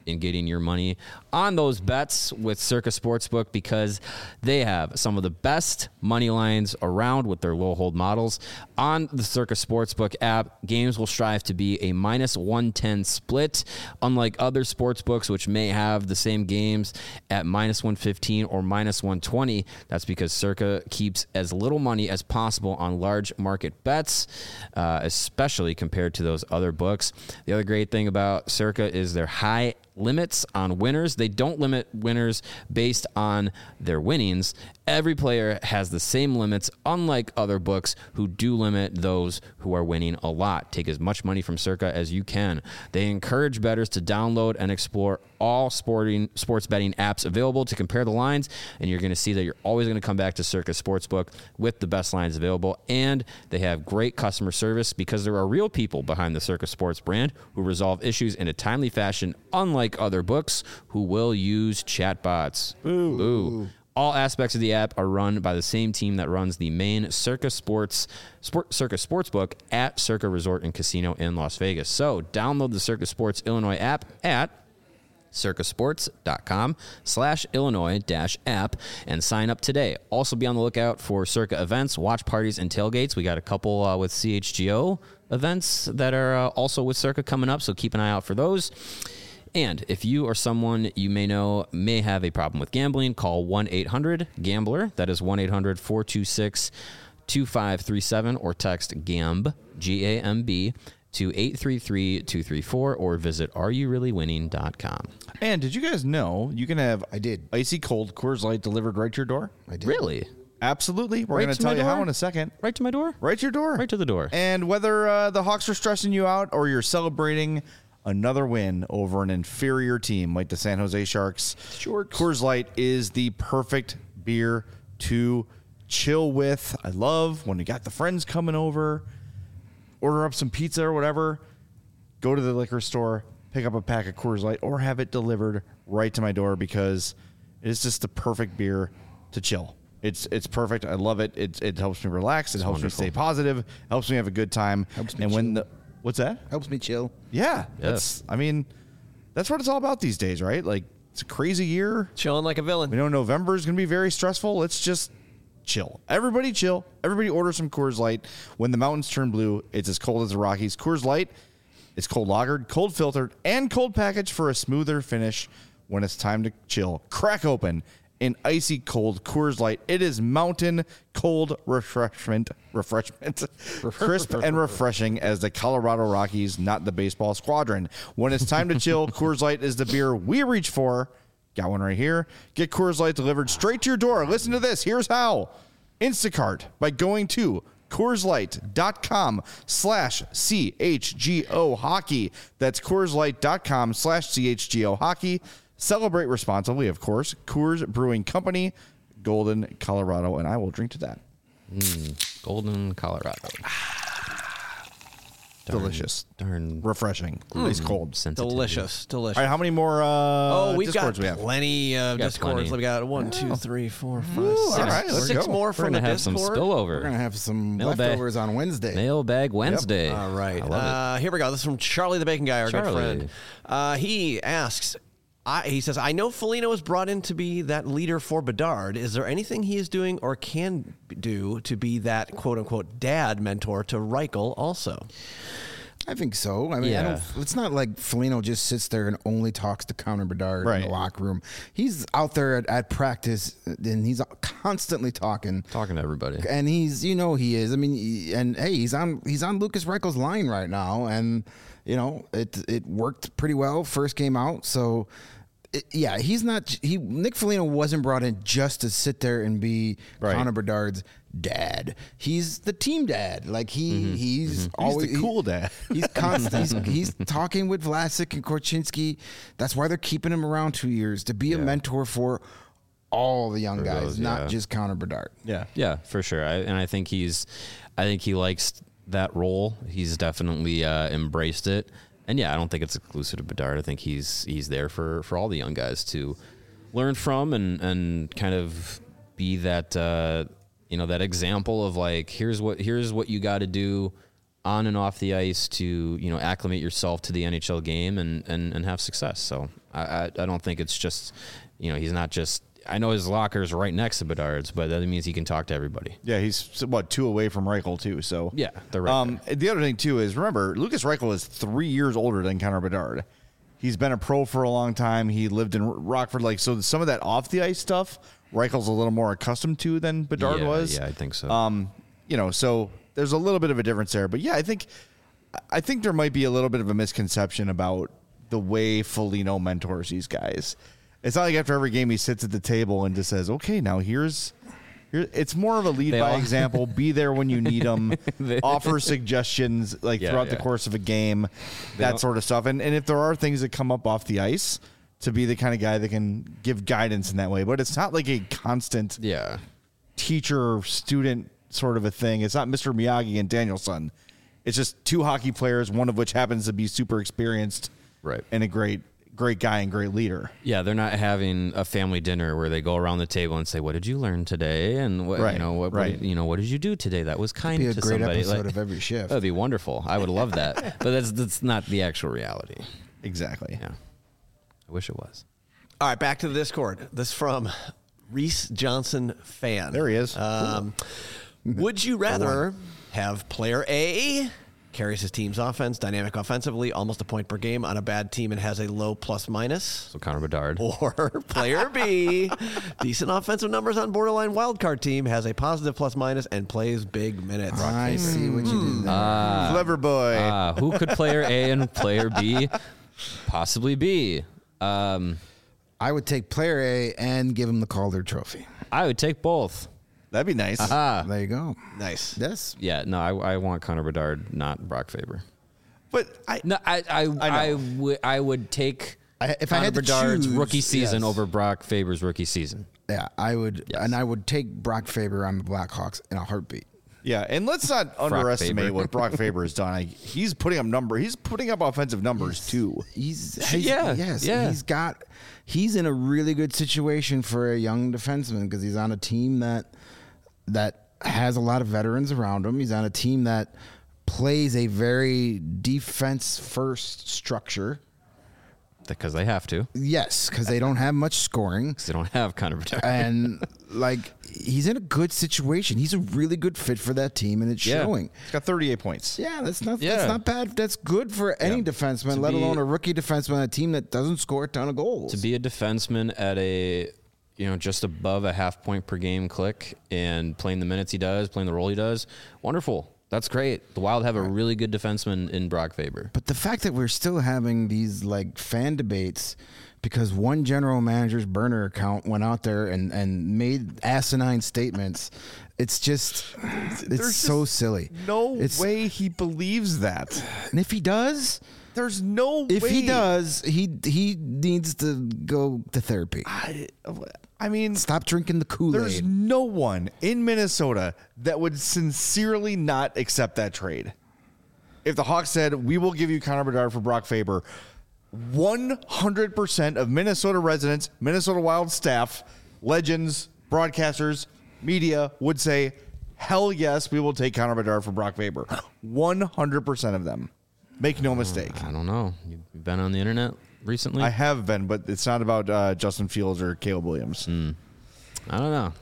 in getting your money on those bets with Circa Sportsbook because they have some of the best money lines around with their low hold models. On the Circa Sportsbook app, games will strive to be a minus 110 split, unlike other sportsbooks which may have the same games at minus 115 or minus 120. That's because Circa keeps as little money as possible on large market bets, especially compared to those other books. The other great thing about Circa is their high limits on winners. They don't limit winners based on their winnings. Every player has the same limits, unlike other books who do limit those who are winning a lot. Take as much money from Circa as you can. They encourage bettors to download and explore all sports betting apps available to compare the lines, and you're going to see that you're always going to come back to Circa Sportsbook with the best lines available. And they have great customer service because there are real people behind the Circa Sports brand who resolve issues in a timely fashion, unlike other books who will use chatbots. Boo. All aspects of the app are run by the same team that runs the main Circa Sportsbook at Circa Resort and Casino in Las Vegas. So download the Circa Sports Illinois app at circasports.com/Illinois-app and sign up today. Also be on the lookout for Circa events, watch parties, and tailgates. We got a couple with CHGO events that are also with Circa coming up, so keep an eye out for those. And if you or someone you may know may have a problem with gambling, call 1-800-GAMBLER. That is 1-800-426-2537 or text GAMB, G-A-M-B, to 833-234 or visit areyourreallywinning.com. And did you guys know you can have icy cold Coors Light delivered right to your door? I did. Really? Absolutely. We're Right going to to my tell you door? how in a second. Right to my door? Right to your door. Right to the door. And whether the Hawks are stressing you out or you're celebrating another win over an inferior team like the San Jose Sharks, Coors Light is the perfect beer to chill with. I love when you got the friends coming over, order up some pizza or whatever, go to the liquor store, pick up a pack of Coors Light, or have it delivered right to my door because it's just the perfect beer to chill. It's perfect. I love it. It helps me relax. It helps me stay positive. Helps me have a good time. Helps me and when chill. what's that? Helps me chill. Yeah. Yes. That's what it's all about these days, right? Like, it's a crazy year. Chilling like a villain. We know November is going to be very stressful. Let's just chill. Everybody chill. Everybody order some Coors Light. When the mountains turn blue, it's as cold as the Rockies. Coors Light is cold lagered, cold filtered, and cold packaged for a smoother finish when it's time to chill. Crack open an icy cold Coors Light. It is mountain cold refreshment, crisp and refreshing as the Colorado Rockies, not the baseball squadron. When it's time to chill, Coors Light is the beer we reach for. Got one right here. Get Coors Light delivered straight to your door. Listen to this. Here's how. Instacart by going to CoorsLight.com/CHGO hockey. That's CoorsLight.com/CHGO hockey. Celebrate responsibly, of course. Coors Brewing Company, Golden, Colorado, and I will drink to that. Golden, Colorado. Delicious. Darn. Refreshing. Ice cold. Sensitivity. Delicious. All right, how many more we've Discords got we have? plenty of got Discords. plenty. We got 1, 2, 3, 4, 5, 6. all right, let's Six go. more We're from going to the have some Discord. spillover. We're gonna have some Mailbag. leftovers on Wednesday. Mailbag Wednesday. All right. I love Here we go. This is from Charlie the Bacon Guy, our good Charlie. friend. He asks, he says, I know Foligno was brought in to be that leader for Bedard. Is there anything he is doing or can do to be that quote-unquote dad mentor to Reichel also? I think so. I mean, Yeah. it's not like Foligno just sits there and only talks to Connor Bedard in Right. the locker room. He's out there at practice and he's constantly talking. Talking to everybody. And he is. I mean, he's on Lucas Reichel's line right now, and it worked pretty well first game out. So Nick Foligno wasn't brought in just to sit there and be Right. Connor Bedard's dad. He's the team dad. Like he's always the cool dad. He's constant. He's talking with Vlasic and Korchinski. That's why they're keeping him around 2 years, to be a mentor for all the young guys, those, not yeah. just Connor Bedard. Yeah. Yeah, for sure. I think he likes that role. He's definitely embraced it. And yeah, I don't think it's exclusive to Bedard. I think he's there for all the young guys to learn from and kind of be that that example of like here's what you got to do on and off the ice to, acclimate yourself to the NHL game and have success. So I don't think it's just, he's not just, I know his locker is right next to Bedard's, but that means he can talk to everybody. Yeah, he's 2 away from Reichel too. So yeah, they're right there. The other thing too is, remember, Lucas Reichel is 3 years older than Connor Bedard. He's been a pro for a long time. He lived in Rockford. So some of that off the ice stuff, Reichel's a little more accustomed to than Bedard was. Yeah, I think so. So there's a little bit of a difference there. But yeah, I think there might be a little bit of a misconception about the way Foligno mentors these guys. It's not like after every game he sits at the table and just says, okay, now here's it's more of a lead by example. Be there when you need them. Offer suggestions throughout the course of a game, that sort of stuff. And if there are things that come up off the ice, to be the kind of guy that can give guidance in that way. But it's not like a constant teacher-student sort of a thing. It's not Mr. Miyagi and Danielson. It's just 2 hockey players, one of which happens to be super experienced and a great guy and great leader. Yeah, they're not having a family dinner where they go around the table and say, "What did you learn today?" And what did you do today that was kind to somebody? It'd be a great episode of every shift. That'd be wonderful. I would love that. But that's not the actual reality. Exactly. Yeah. I wish it was. All right, back to the Discord. This from Reese Johnson fan. There he is. Would you rather have player A carries his team's offense, dynamic offensively, almost a point per game on a bad team and has a low plus minus? So Connor Bedard. Or player B, decent offensive numbers on borderline wildcard team, has a positive plus minus and plays big minutes. I see what you did there. Clever boy. Who could player A and player B possibly be? I would take player A and give him the Calder Trophy. I would take both. That'd be nice. There you go. Nice. Yes. Yeah, no, I want Connor Bedard, not Brock Faber. But I would take if I Connor had to Bedard's choose, rookie season over Brock Faber's rookie season. Yeah, I would, and I would take Brock Faber on the Blackhawks in a heartbeat. Yeah, and let's not underestimate what Brock Faber has done. He's putting up offensive numbers too. He's in a really good situation for a young defenseman because he's on a team that has a lot of veterans around him. He's on a team that plays a very defense first structure. Because they have to. Yes, because they don't have much scoring. Because they don't have Connor Bedard. And he's in a good situation. He's a really good fit for that team, and it's showing. He's got 38 points. Yeah, that's not bad. That's good for any defenseman, let alone a rookie defenseman on a team that doesn't score a ton of goals. To be a defenseman at a just above a half point per game click and playing the minutes he does, playing the role he does, wonderful. That's great. The Wild have a really good defenseman in Brock Faber. But the fact that we're still having these fan debates because one general manager's burner account went out there and made asinine statements, it's so silly. No way he believes that. And if he does, there's no way. If he does, he needs to go to therapy. I mean, stop drinking the Kool-Aid. There's no one in Minnesota that would sincerely not accept that trade. If the Hawks said, we will give you Connor Bedard for Brock Faber, 100% of Minnesota residents, Minnesota Wild staff, legends, broadcasters, media would say, hell yes, we will take Connor Bedard for Brock Faber. 100% of them. Make no mistake. I don't know. You've been on the internet recently? I have been, but it's not about Justin Fields or Caleb Williams. I don't know.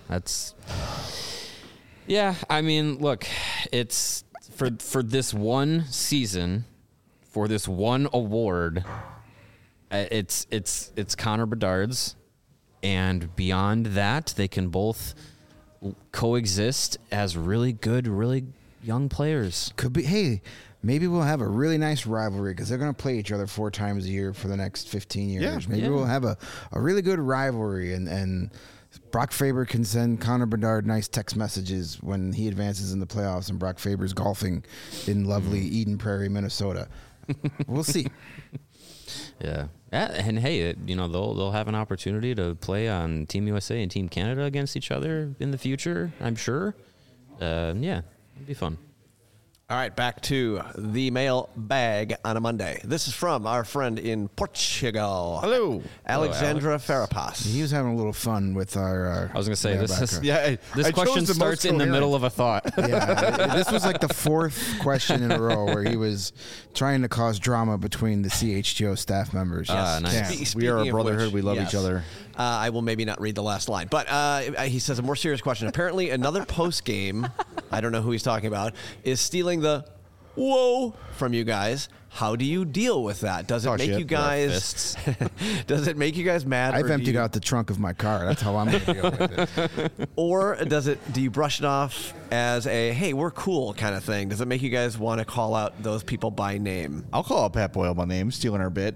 Yeah, I mean, look, it's for this one season, for this one award, it's Connor Bedard's, and beyond that, they can both coexist as really good, really young players. Could be. Hey, maybe we'll have a really nice rivalry because they're going to play each other 4 times a year for the next 15 years. Yeah, maybe we'll have a really good rivalry, and Brock Faber can send Connor Bedard nice text messages when he advances in the playoffs and Brock Faber's golfing in lovely Eden Prairie, Minnesota. We'll see. Yeah. And hey, they'll have an opportunity to play on Team USA and Team Canada against each other in the future, I'm sure. Yeah, it'd be fun. All right, back to the mail bag on a Monday. This is from our friend in Portugal. Hello. Alexandra Farapas. He was having a little fun with our. I was going to say, this is, Yeah, this question starts in the middle of a thought. Yeah, this was like the fourth question in a row where he was trying to cause drama between the CHGO staff members. Nice. We are a Speaking of brotherhood. which, We love yes. each other. I will maybe not read the last line, but he says a more serious question. Apparently, another post game, I don't know who he's talking about, is stealing the whoa from you guys. How do you deal with that? Does it Oh, make shit. you guys? Does it make you guys mad? I've or do emptied you- out the trunk of my car. That's how I'm going to deal with it. Or does it? Do you brush it off as a "Hey, we're cool" kind of thing? Does it make you guys want to call out those people by name? I'll call out Pat Boyle by name, stealing our bit.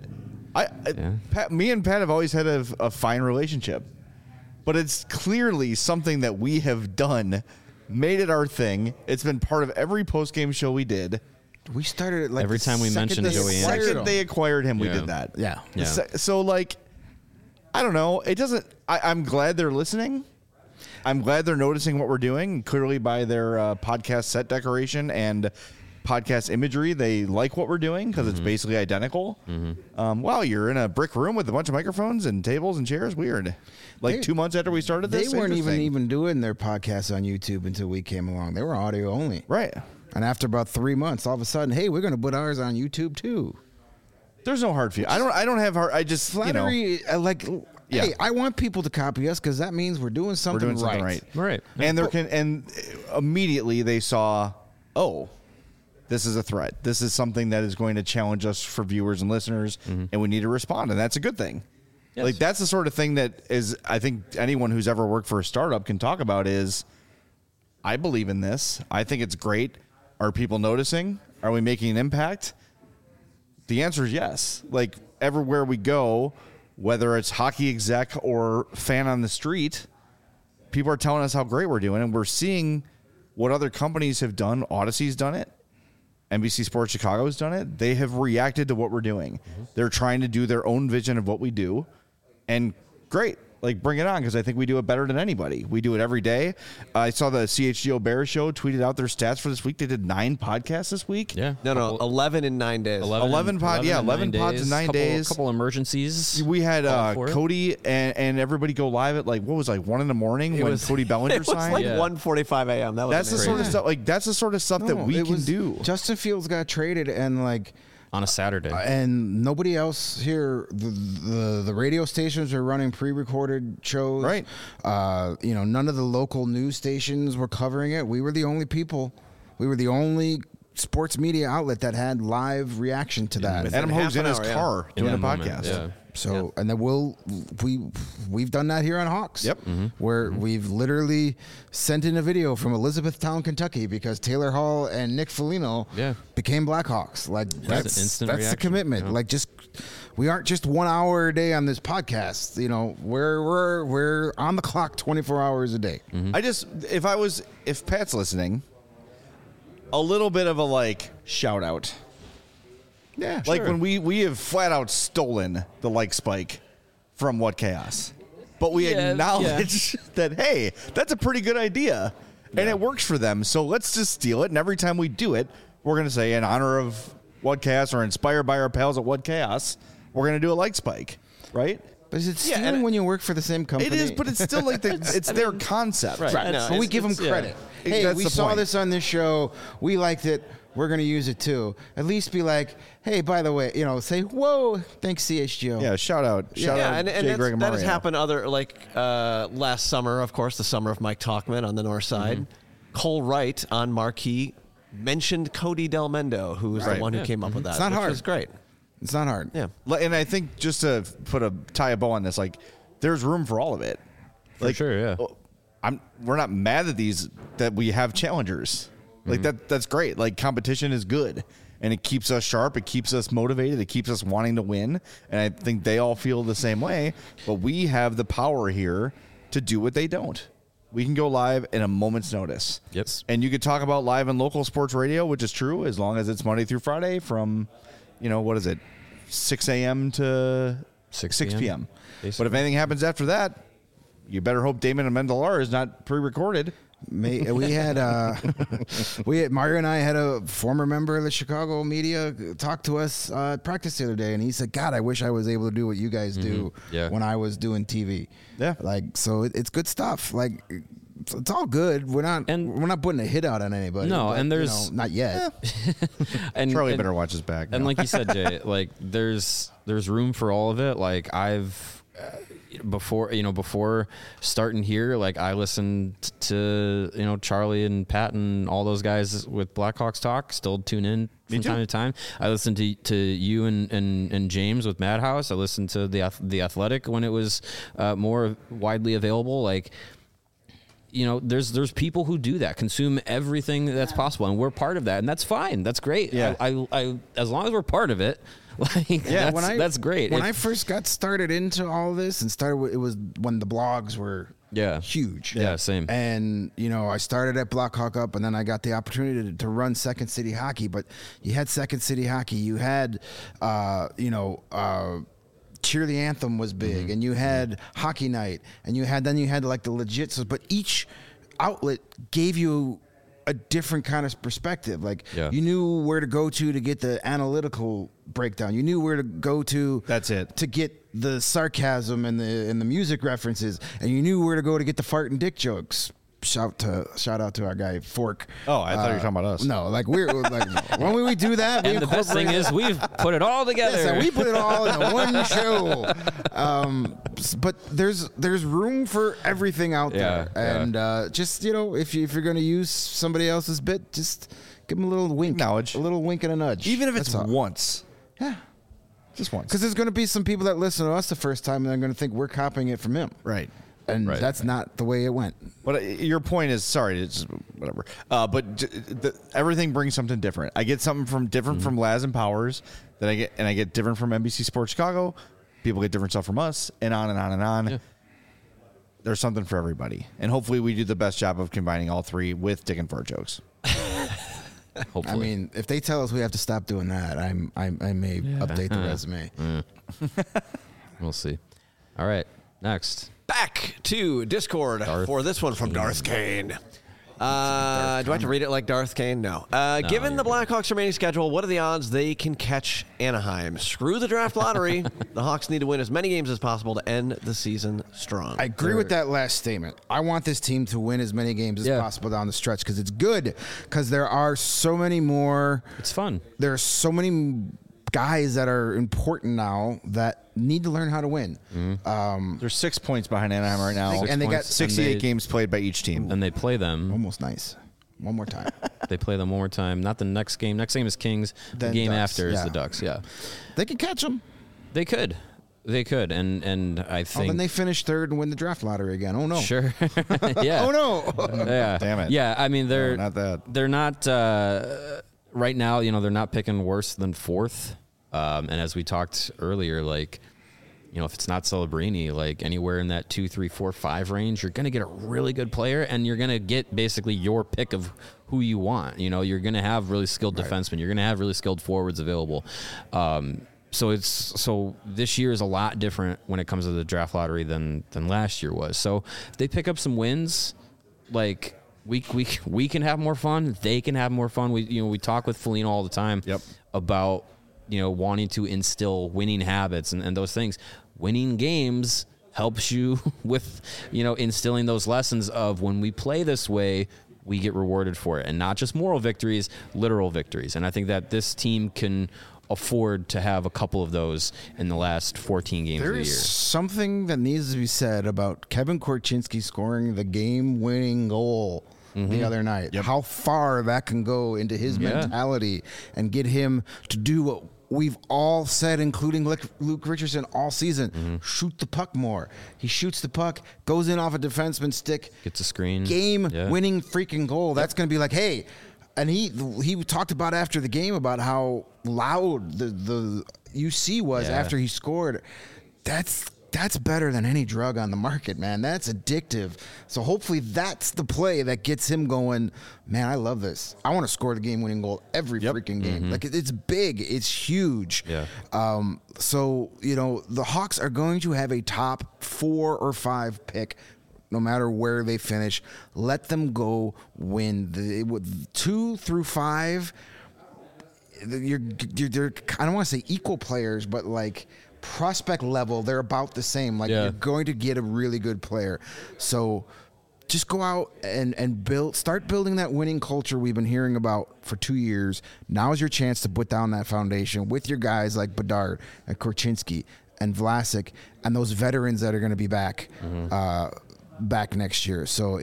Pat, me and Pat have always had a fine relationship, but it's clearly something that we have done, made it our thing. It's been part of every post game show we did. We started it like Every the time we second mentioned they Joey acquired Second him. they acquired him, we Yeah. did that. Yeah. Yeah. So like, I don't know. It doesn't. I'm glad they're listening. I'm glad they're noticing what we're doing. Clearly, by their podcast set decoration and podcast imagery, they like what we're doing because it's basically identical. Wow, you're in a brick room with a bunch of microphones and tables and chairs. Weird. Like They- 2 months after we started this, They weren't interesting. even doing their podcasts on YouTube until we came along. They were audio only. Right. And after about 3 months, all of a sudden, hey, we're going to put ours on YouTube too. There's no hard feel. I don't have hard. I just Flattery, Yeah. hey, I want people to copy us because that means we're doing we're something, doing something right. Right. And immediately they saw, oh, this is a threat. This is something that is going to challenge us for viewers and listeners, and we need to respond, and that's a good thing. Yes. Like that's the sort of thing that is, I think anyone who's ever worked for a startup can talk about is, I believe in this. I think it's great. Are people noticing? Are we making an impact? The answer is yes. Like everywhere we go, whether it's hockey exec or fan on the street, people are telling us how great we're doing, and we're seeing what other companies have done. Odyssey's done it. NBC Sports Chicago has done it. They have reacted to what we're doing. They're trying to do their own vision of what we do, and great. Like, bring it on, because I think we do it better than anybody. We do it every day. I saw the CHGO Bears show tweeted out their stats for this week. They did 9 podcasts this week. Yeah. No, 11 in 9 days. 11 pods in 9 days. Couple emergencies. We had All for it. Cody and everybody go live at like, what was it, like 1 in the morning when Cody Bellinger It was signed. like Yeah. 1:45 a.m. That was That's the amazing. sort of stuff. Like that's the sort of stuff that No, we it can was- do. Justin Fields got traded, and like, on a Saturday. and nobody else here. The radio stations are running pre-recorded shows, Right. None of the local news stations were covering it. We were the only people. We were the only sports media outlet that had live reaction to that. Adam half Hogue's in an his hour, yeah. car In doing a that moment, podcast. yeah. So, and then we've done that here on Hawks. Yep. Where we've literally sent in a video from Elizabethtown, Kentucky, because Taylor Hall and Nick Foligno Yeah. became Blackhawks. Like an that's instant the reaction. commitment. Yeah. Like we aren't just 1 hour a day on this podcast. We're on the clock 24 hours a day. If Pat's listening, a little bit of a like shout out. Yeah, Like sure. when we have flat out stolen the like spike from What Chaos. But we Yeah, acknowledge that, hey, that's a pretty good idea. And it works for them. So let's just steal it. And every time we do it, we're going to say, in honor of What Chaos or inspired by our pals at What Chaos, we're going to do a like spike. Right? But is it Yeah, stealing and- when you work for the same company? It is, but it's still like it's their concept. Right. Right. No, But we it's- give them it's- yeah. credit. Hey, That's we the saw point. this on this show. We liked it. We're going to use it too. At least be like, hey, by the way, say, whoa, thanks CHGO. Yeah, shout out. Shout out and Jay Greg and that has Mario. happened last summer, of course, the summer of Mike Talkman on the north side. Cole Wright on Marquee mentioned Cody Del Mendo, who was the Right. one who came up with that. It's not which hard. was great. It's not hard. Yeah. And I think just to tie a bow on this, like there's room for all of it. For sure, yeah. We're not mad that we have challengers. Like that's great. Like competition is good, and it keeps us sharp. It keeps us motivated. It keeps us wanting to win. And I think they all feel the same way. But we have the power here to do what they don't. We can go live in a moment's notice. Yep. And you could talk about live and local sports radio, which is true, as long as it's Monday through Friday from, 6 a.m. to 6 p.m. p.m. But if anything happens after that, you better hope Damon Amendola is not pre-recorded. We had Mario and I had a former member of the Chicago media talk to us at practice the other day, and he said, "God, I wish I was able to do what you guys do when I was doing TV." Yeah, like so, it's good stuff. Like it's all good. We're not putting a hit out on anybody. No, but, and there's not yet. and Charlie better watch his back. And now. like you said, Jay, like there's room for all of it. Like I've before starting here, like I listened to Charlie and Pat and all those guys with Blackhawks Talk. Still tune in from time to time. I listened to you and James with Madhouse. I listened to the Athletic when it was more widely available. Like, there's people who do that, consume everything that's possible, and we're part of that, and that's fine. That's great. Yeah. I as long as we're part of it. Like, that's great. When I first got started into all this and it was when the blogs were huge. Yeah, same. And, I started at Blackhawk Up, and then I got the opportunity to run Second City Hockey. But you had Second City Hockey. You had, Cheer the Anthem was big, and you had Hockey Night, and you had like the legit. But each outlet gave you a different kind of perspective. Like you knew where to go to get the analytical breakdown. You knew where to go to. That's it. To get the sarcasm and the music references, and you knew where to go to get the fart and dick jokes. Shout out to our guy Fork. Oh, I thought you were talking about us. No, like we're like when we do that, and the best thing is we've put it all together. Yes, we put it all in one show. But there's room for everything out there, and just if you're going to use somebody else's bit, just give them a little wink, a little wink and a nudge, even if it's once. Yeah, just once. Because there's going to be some people that listen to us the first time, and they're going to think we're copying it from him. Right. And that's not the way it went. But your point is, sorry, it's just whatever. But everything brings something different. I get something different from Laz and Powers that I get different from NBC Sports Chicago. People get different stuff from us, and on and on and on. Yeah. There's something for everybody, and hopefully we do the best job of combining all three with dick and fart jokes. Hopefully. I mean, if they tell us we have to stop doing that, I may update the resume. We'll see. All right, next. Back to Discord for this one from Darth Kane. Do I have to read it like Darth Kane? No. Given the Blackhawks' remaining schedule, what are the odds they can catch Anaheim? Screw the draft lottery. The Hawks need to win as many games as possible to end the season strong. I agree with that last statement. I want this team to win as many games as possible down the stretch because it's good. Because there are so many more. It's fun. There are so many guys that are important now that need to learn how to win. There's 6 points behind Anaheim right now, and they got 68 games played by each team. And they play them almost nice. One more time. They play them one more time. Not the next game. Next game is Kings. Then the game Ducks. after is the Ducks. Yeah, they can catch them. They could, and I think. Then they finish third and win the draft lottery again. Oh no! Sure. Yeah. Oh no! Yeah. Damn it. Yeah. I mean, they're not that. They're not right now. They're not picking worse than fourth. And as we talked earlier, like, if it's not Celebrini, like anywhere in that 2, 3, 4, 5 range, you're going to get a really good player, and you're going to get basically your pick of who you want. You're going to have really skilled defensemen. You're going to have really skilled forwards available. So this year is a lot different when it comes to the draft lottery than last year was. So if they pick up some wins, like we can have more fun. They can have more fun. We talk with Foligno all the time about wanting to instill winning habits and those things. Winning games helps you with, instilling those lessons of when we play this way, we get rewarded for it. And not just moral victories, literal victories. And I think that this team can afford to have a couple of those in the last 14 games of the year. There's something that needs to be said about Kevin Korchinski scoring the game-winning goal the other night. How far that can go into his mentality and get him to do what we've all said, including Luke Richardson all season, shoot the puck more. He shoots the puck, goes in off a defenseman's stick, gets a screen, game-winning freaking goal. That's going to be like, hey, and he talked about after the game about how loud the UC was after he scored. That's better than any drug on the market, man. That's addictive. So hopefully that's the play that gets him going, man, I love this. I want to score the game-winning goal every freaking game. Like, it's big. It's huge. Yeah. So, the Hawks are going to have a top 4 or 5 pick no matter where they finish. Let them go win. 2 through 5, they're I don't want to say equal players, but like prospect level, they're about the same. Like you're going to get a really good player. So just go out and start building that winning culture we've been hearing about for 2 years. Now is your chance to put down that foundation with your guys like Bedard and Korchinski and Vlasic and those veterans that are going to be back back next year. So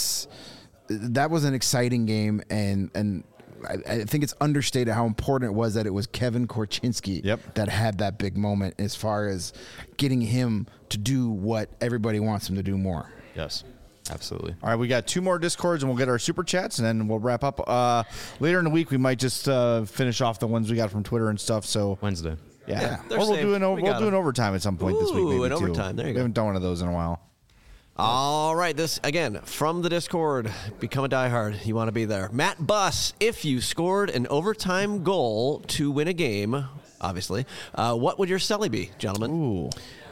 that was an exciting game, and I think it's understated how important it was that it was Kevin Korchinski that had that big moment as far as getting him to do what everybody wants him to do more. Yes. Absolutely. All right, we got 2 more Discords, and we'll get our super chats, and then we'll wrap up. Later in the week, we might just finish off the ones we got from Twitter and stuff. So Wednesday. Yeah. Or we'll do an overtime at some point this week. Maybe an overtime. There you go. We haven't done one of those in a while. All right, this again from the Discord. Become a diehard. You want to be there. Matt Buss, if you scored an overtime goal to win a game, obviously, what would your Selly be, gentlemen?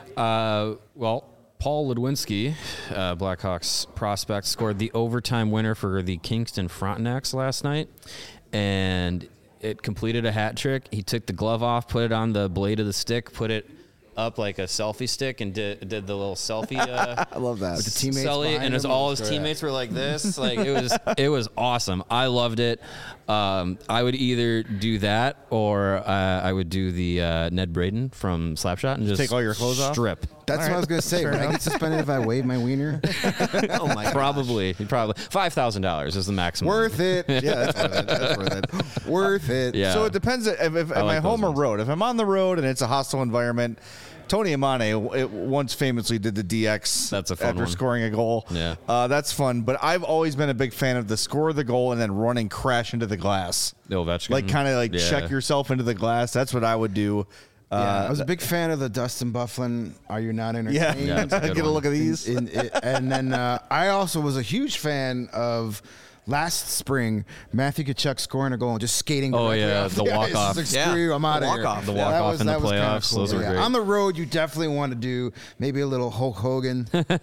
Well, Paul Ludwinski, Blackhawks prospect, scored the overtime winner for the Kingston Frontenacs last night, and it completed a hat trick. He took the glove off, put it on the blade of the stick, put it up like a selfie stick, and did the little selfie. I love that. With the teammates Selly, and all his teammates were like this. Like it was awesome. I loved it. I would either do that or I would do the Ned Braden from Slapshot and just take all your clothes off. Strip. That's what I was going to say. Would I get suspended if I wave my wiener? Oh my gosh. Probably $5,000 is the maximum. Worth it. Yeah, that's worth it. Worth it. Yeah. So it depends if am I home or road. If I'm on the road and it's a hostile environment, Tony Amane once famously did the DX That's a fun after one. scoring a goal. Yeah. That's fun. But I've always been a big fan of the score of the goal and then running crash into the glass. The Ovechkin. Like kind of check yourself into the glass. That's what I would do. I was a big fan of the Dustin Byfuglien. Are you not entertained? Yeah, that's a good Get a one. look at these. And then I also was a huge fan of last spring Matthew Tkachuk scoring a goal and just skating. Oh, directly yeah, off the ice. walk-off. Just like, screw you, I'm out of here. walk-off. The Yeah, walk-off in the that was kinda playoffs. Those were great. On the road, you definitely want to do maybe a little Hulk Hogan,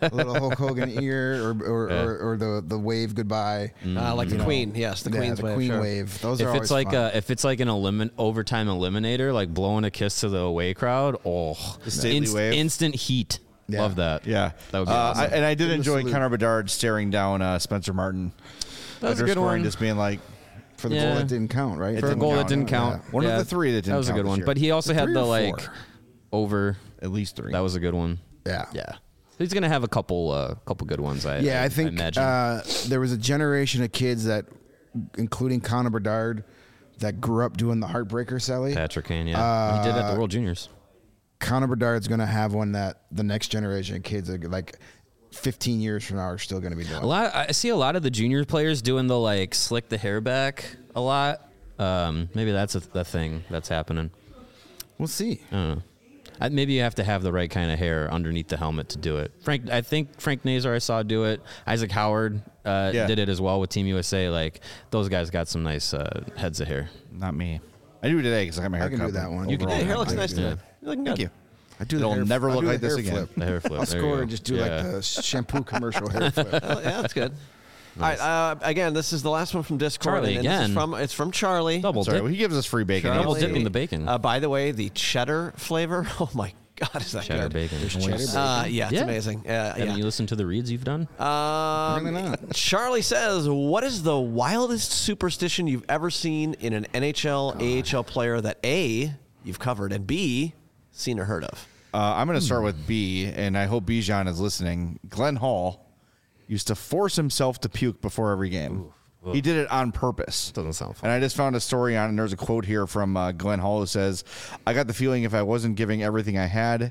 ear, or the wave goodbye. Like the Queen. Yes, the Queen's the wave. Queen sure. wave. Those If are it's always like fun. if it's like an overtime eliminator, like blowing a kiss to the away crowd, The stately wave. instant heat. Yeah. Love that. Yeah. That would be awesome. I did enjoy salute. Connor Bedard staring down Spencer Martin. That was a After good scoring, one. just being like, for the Yeah. goal that didn't count, right? For a goal that didn't count. One of the 3 that didn't That was a count good this one. year. But he also had 3 the or 4? over. at least 3. That was a good one. Yeah. Yeah. He's gonna have a couple good ones. I think imagine. there was a generation of kids that, including Connor Bedard, that grew up doing the heartbreaker, Sally. Patrick Kane. Yeah, he did at the World Juniors. Connor Bedard's going to have one that the next generation of kids, are like 15 years from now, are still going to be doing. I see a lot of the junior players doing the slick the hair back a lot. Maybe that's the thing that's happening. We'll see. I don't know. Maybe you have to have the right kind of hair underneath the helmet to do it. I think Frank Nazar I saw do it. Isaac Howard did it as well with Team USA. Like those guys got some nice heads of hair. Not me. I do today because I got my hair I can cut. do that one. You can. Overall, Your hair looks I can nice do today. that. You're looking Thank good. you. I do It'll the hair, never I look do the like this hair again. flip. The hair flip. I'll There you score go. and just do Yeah. like the shampoo commercial hair flip. Oh, yeah, that's good. All right. Again, this is the last one from Discord. Charlie, and this is again. it's from Charlie. Double Sorry, dip. well, he gives us free bacon. Double Charlie. dipping the bacon. By the way, the cheddar flavor. Oh my God, is that Cheddar good? bacon. Yeah, it's Yeah. amazing. Haven't you listened to the reads you've done? Really not. Charlie says, "What is the wildest superstition you've ever seen in an NHL, AHL player that A, you've covered, and B, seen or heard of?" I'm going to start with B, and I hope Bijan is listening. Glenn Hall used to force himself to puke before every game. He did it on purpose. Doesn't sound fun. And I just found a story on, and there's a quote here from Glenn Hall who says, I got the feeling if I wasn't giving everything I had,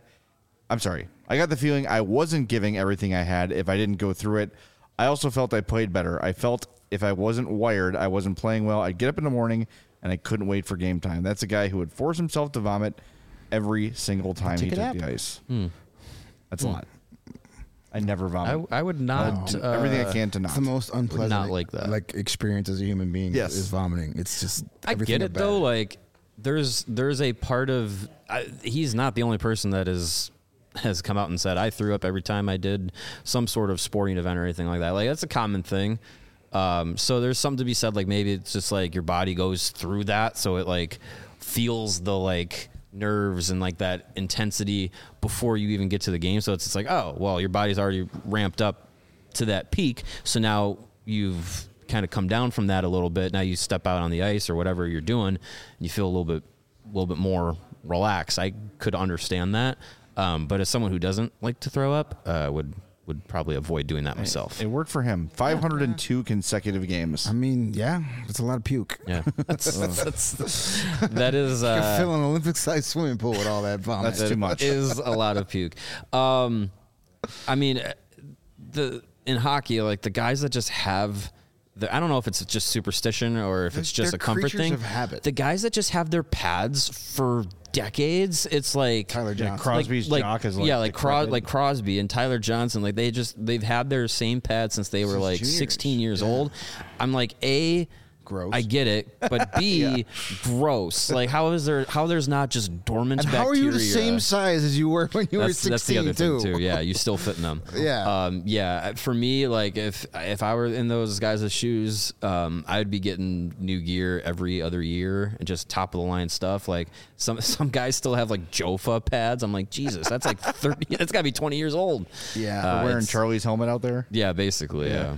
I got the feeling I wasn't giving everything I had if I didn't go through it. I also felt I played better. I felt if I wasn't wired, I wasn't playing well. I'd get up in the morning, and I couldn't wait for game time. That's a guy who would force himself to vomit every single time he took the ice. That's a lot. I never vomit. I would not. Do everything I can to not. It's the most unpleasant not like that. experience as a human being. Yes. Is vomiting. It's just I everything get it bad. though. Like there's a part of he's not the only person that is has come out and said, I threw up every time I did some sort of sporting event or anything like that. Like, that's a common thing. So there's something to be said, like maybe it's just like your body goes through that, so it like feels the like nerves and like that intensity before you even get to the game. So it's like, oh, well, your body's already ramped up to that peak, so now you've kind of come down from that a little bit. Now you step out on the ice or whatever you're doing, and you feel a little bit more relaxed. I could understand that, but as someone who doesn't like to throw up, would probably avoid doing that myself. It worked for him. 502 consecutive games. I mean, yeah, it's a lot of puke. Yeah, that is You can fill an Olympic-sized swimming pool with all that vomit. That's too much. Is a lot of puke. I mean, in hockey, like the guys that just have. I don't know if it's just superstition or if it's just They're a comfort creatures thing. of habit. The guys that just have their pads for decades, it's like Tyler Johnson. Crosby's jock is like like Crosby and Tyler Johnson, like they've had their same pads since they were like juniors. 16 years old. I'm like, A, Gross. I get it, but B, gross. Like how there's not just dormant And bacteria? how are you the same size as you were when you were 16 That's the other too? thing too. Yeah, you still fit in them. Yeah. Yeah. For me, like if I were in those guys' shoes, I'd be getting new gear every other year and just top of the line stuff. Like some guys still have like Jofa pads. I'm like, Jesus, that's like 30. That's got to be 20 years old. Yeah. Wearing it's- Charlie's helmet out there. Yeah, basically. Yeah.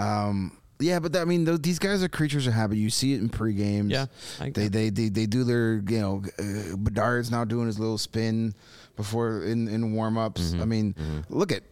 Yeah, but I mean, these guys are creatures of habit. You see it in pre-games. Yeah, they do their, Bedard's now doing his little spin before in warm-ups. I mean, look at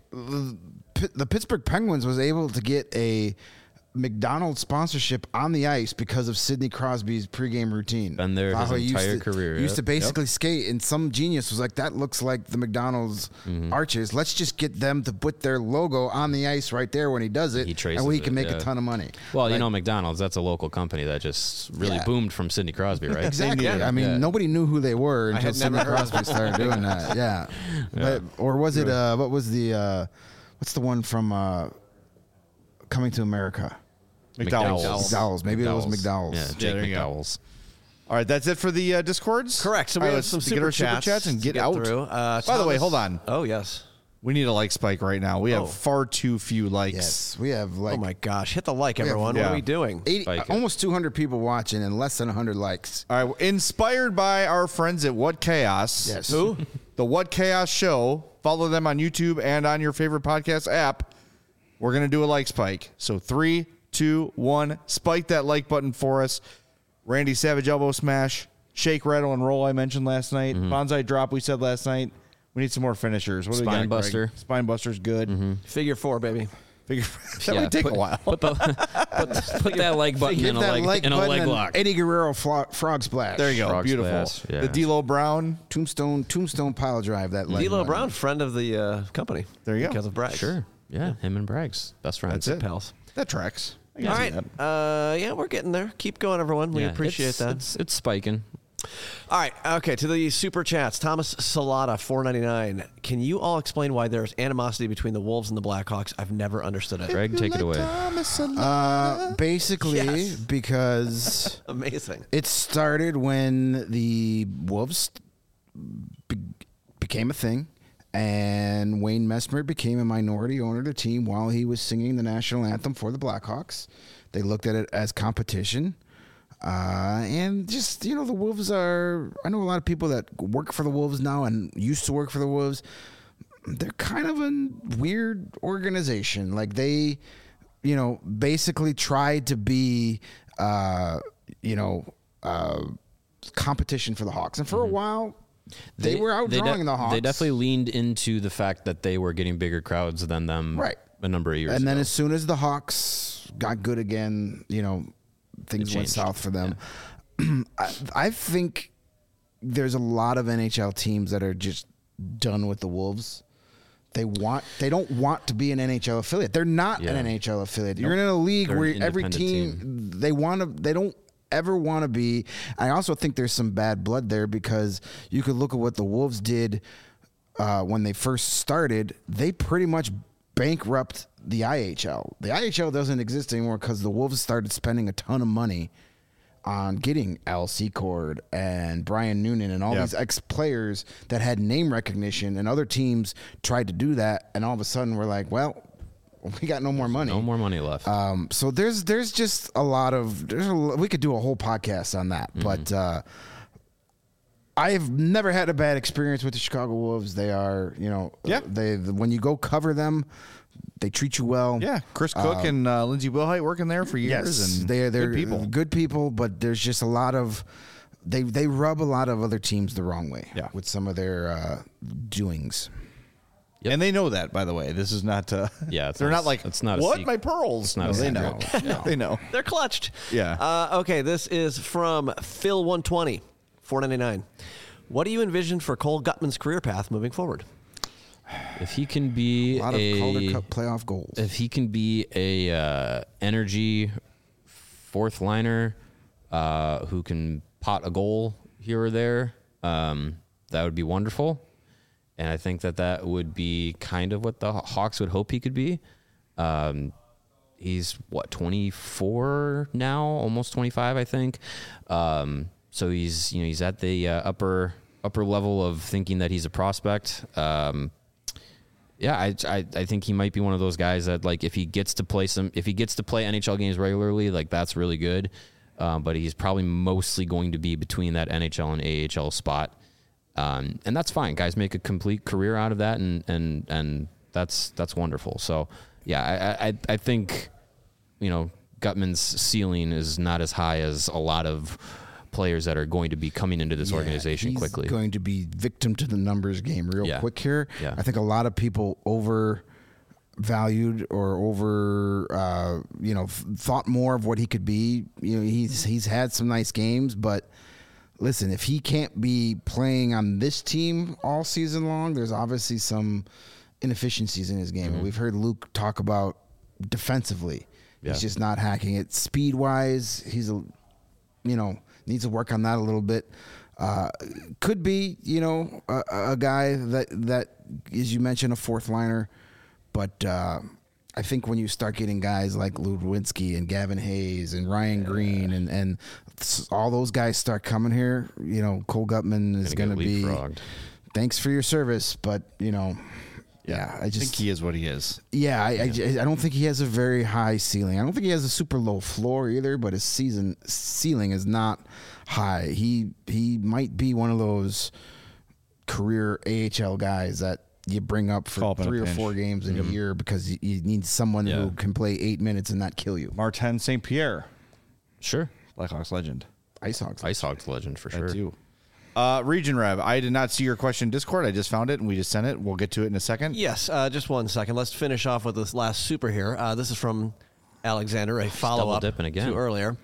the Pittsburgh Penguins was able to get a McDonald's sponsorship on the ice because of Sidney Crosby's pregame routine. Been there his How he entire career, Used yep. to basically skate, and some genius was like, that looks like the McDonald's arches. Let's just get them to put their logo on the ice right there when he does it, He traces and we it, can make yeah. a ton of money. Well, Like, McDonald's, that's a local company that just really Yeah. boomed from Sidney Crosby, right? Exactly. needed it. I mean, Yeah. nobody knew who they were until had Sidney never heard Crosby started doing that. Yeah. But, or was it, what was the, what's the one from Coming to America? McDowell's. Maybe it was McDowell's. Yeah, Jake there you go. McDowell's. All right, that's it for the Discords? Correct. So we All right, have some let's get super our super chats and to get out. through. By the way, Thomas- hold on. Oh, yes. We need a like spike right now. We have Oh. far too few likes. Yes. We have like Oh, my gosh. Hit the like, everyone. yeah. What are we doing? 80, Spike it. almost 200 people watching and less than 100 likes. All right, inspired by our friends at What Chaos. Yes. Who? The What Chaos Show. Follow them on YouTube and on your favorite podcast app. We're going to do a like spike. So 3, 2, 1. Spike that like button for us. Randy Savage elbow smash. Shake, rattle, and roll I mentioned last night. Bonsai drop we said last night. We need some more finishers. What do we Spine got, Greg? buster. Spine buster's good. Figure 4, baby. Figure that might take a while. Put that like button Hit in a that leg like in a button leg and lock. Eddie Guerrero frog splash. There you go. Frog Beautiful. splash, yeah. The D'Lo Brown. Tombstone pile drive that leg. D'Lo button. Brown, friend of the company. There you go. Because of Bragg. Sure. Yeah, him and Braggs, best friends. That's it. Pals. That tracks. I can All see right. that. Yeah, we're getting there. Keep going, everyone. We Yeah, appreciate that. It's spiking. All right. Okay. To the super chats. Thomas Salata, $4.99. Can you all explain why there's animosity between the Wolves and the Blackhawks? I've never understood it. Greg, take it away. Basically, Yes. because Amazing. it started when the Wolves became a thing, and Wayne Messmer became a minority owner of the team while he was singing the national anthem for the Blackhawks. They looked at it as competition. And just, the Wolves are, I know a lot of people that work for the Wolves now and used to work for the Wolves. They're kind of a weird organization. Like they, basically tried to be, competition for the Hawks. And for a while, they were outdrawing the Hawks. They definitely leaned into the fact that they were getting bigger crowds than them Right. a number of years And then ago. as soon as the Hawks got good again, things went changed. south for them. I think there's a lot of NHL teams that are just done with the Wolves. They don't want to be an NHL affiliate. They're not Yeah. an NHL affiliate. You're in a league They're where an every independent team they don't ever want to be. I also think there's some bad blood there because you could look at what the Wolves did when they first started. They pretty much bankrupt the IHL. The IHL doesn't exist anymore because the Wolves started spending a ton of money on getting Al Secord and Brian Noonan and all these ex-players that had name recognition, and other teams tried to do that, and all of a sudden we're like, well, we got no more money. No more money left. So there's just a lot of we could do a whole podcast on that, but I've never had a bad experience with the Chicago Wolves. They are, they when you go cover them, they treat you well. Yeah, Chris Cook and Lindsey Wilhite working there for years, and they're good people. But there's just a lot of they rub a lot of other teams the wrong way with some of their doings. Yep. And they know that, by the way. This is not. They're not like it's not what a my pearls. It's not they know. They know. They're clutched. Yeah. Okay, this is from Phil120, $4.99. What do you envision for Cole Gutman's career path moving forward? If he can be a lot of Calder Cup playoff goals. If he can be a energy fourth liner who can pot a goal here or there, that would be wonderful. And I think that would be kind of what the Hawks would hope he could be. He's 24 now, almost 25, I think. So he's at the upper level of thinking that he's a prospect. I think he might be one of those guys that, like, if he gets to play NHL games regularly, like, that's really good. But he's probably mostly going to be between that NHL and AHL spot. And that's fine. Guys make a complete career out of that, and that's wonderful. So I think, Gutman's ceiling is not as high as a lot of players that are going to be coming into this organization quickly. He's going to be victim to the numbers game real quick here. Yeah. I think a lot of people overvalued or thought more of what he could be. He's had some nice games, but listen, if he can't be playing on this team all season long, there's obviously some inefficiencies in his game. We've heard Luke talk about defensively. He's just not hacking it. Speed-wise, he's needs to work on that a little bit. Could be, a guy that, as you mentioned, a fourth liner. But I think when you start getting guys like Ludwinski and Gavin Hayes and Ryan Green and all those guys start coming here, Cole Gutman is going to be, thanks for your service, but, I just think he is what he is. Yeah, I don't think he has a very high ceiling. I don't think he has a super low floor either, but his ceiling is not high. He might be one of those career AHL guys that you bring up for 3 or 4 games in a year because you need someone who can play 8 minutes and not kill you. Martin St. Pierre. Sure. Blackhawks legend. Ice Hawks legend for sure. That too. Region Rev, I did not see your question in Discord. I just found it and we just sent it. We'll get to it in a second. Yes, just 1 second. Let's finish off with this last super here. This is from Alexander, a follow-up to earlier.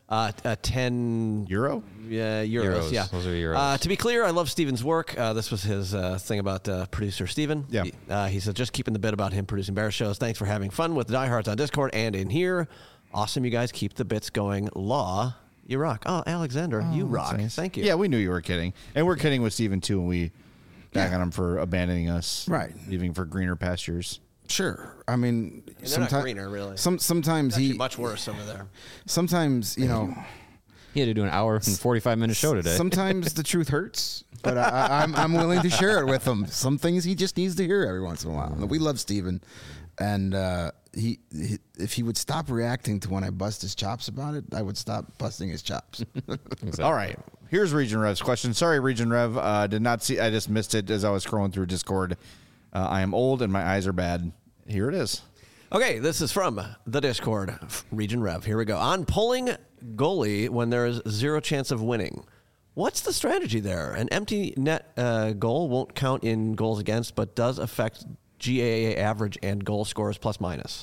10 euro? Yeah, euros. Yeah, those are euros. To be clear, I love Steven's work. This was his thing about producer Steven. Yeah. He said, just keeping the bit about him producing Bear shows. Thanks for having fun with the diehards on Discord and in here. Awesome, you guys keep the bits going. Law, you rock. Oh, Alexander, you rock. Nice. Thank you. Yeah, we knew you were kidding, and we're kidding with Steven too. And we back on him for abandoning us, right? Leaving for greener pastures. Sure. I mean, sometimes not greener, really. Sometimes he much worse over there. Sometimes he had to do an hour and 45-minute show today. Sometimes the truth hurts, but I'm willing to share it with him. Some things he just needs to hear every once in a while. We love Steven, and he if he would stop reacting to when I bust his chops about it, I would stop busting his chops. Exactly. All right. Here's Region Rev's question. Sorry, Region Rev. Did not see. I just missed it as I was scrolling through Discord. I am old and my eyes are bad. Here it is. Okay, this is from the Discord, Region Rev. Here we go. On pulling goalie when there is 0 chance of winning, what's the strategy there? An empty net goal won't count in goals against, but does affect GAA average and goal scores plus minus.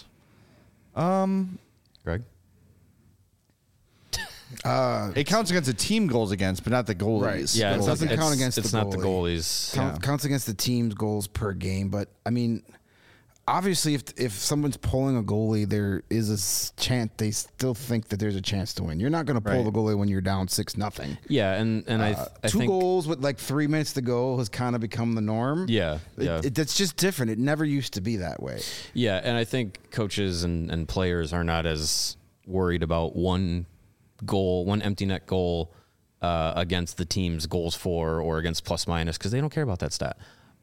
Greg? It counts against the team goals against, but not the goalies. Right. Yeah, it doesn't count against it's the goalie. It's not the goalies. Counts against the team's goals per game, but I mean, obviously, if someone's pulling a goalie, there is a chance they still think that there's a chance to win. You're not going to pull the goalie when you're down 6-0. Yeah, and I 2 think goals with like 3 minutes to go has kind of become the norm. Yeah, That's just different. It never used to be that way. Yeah, and I think coaches and players are not as worried about one empty net goal against the team's goals for or against plus minus because they don't care about that stat.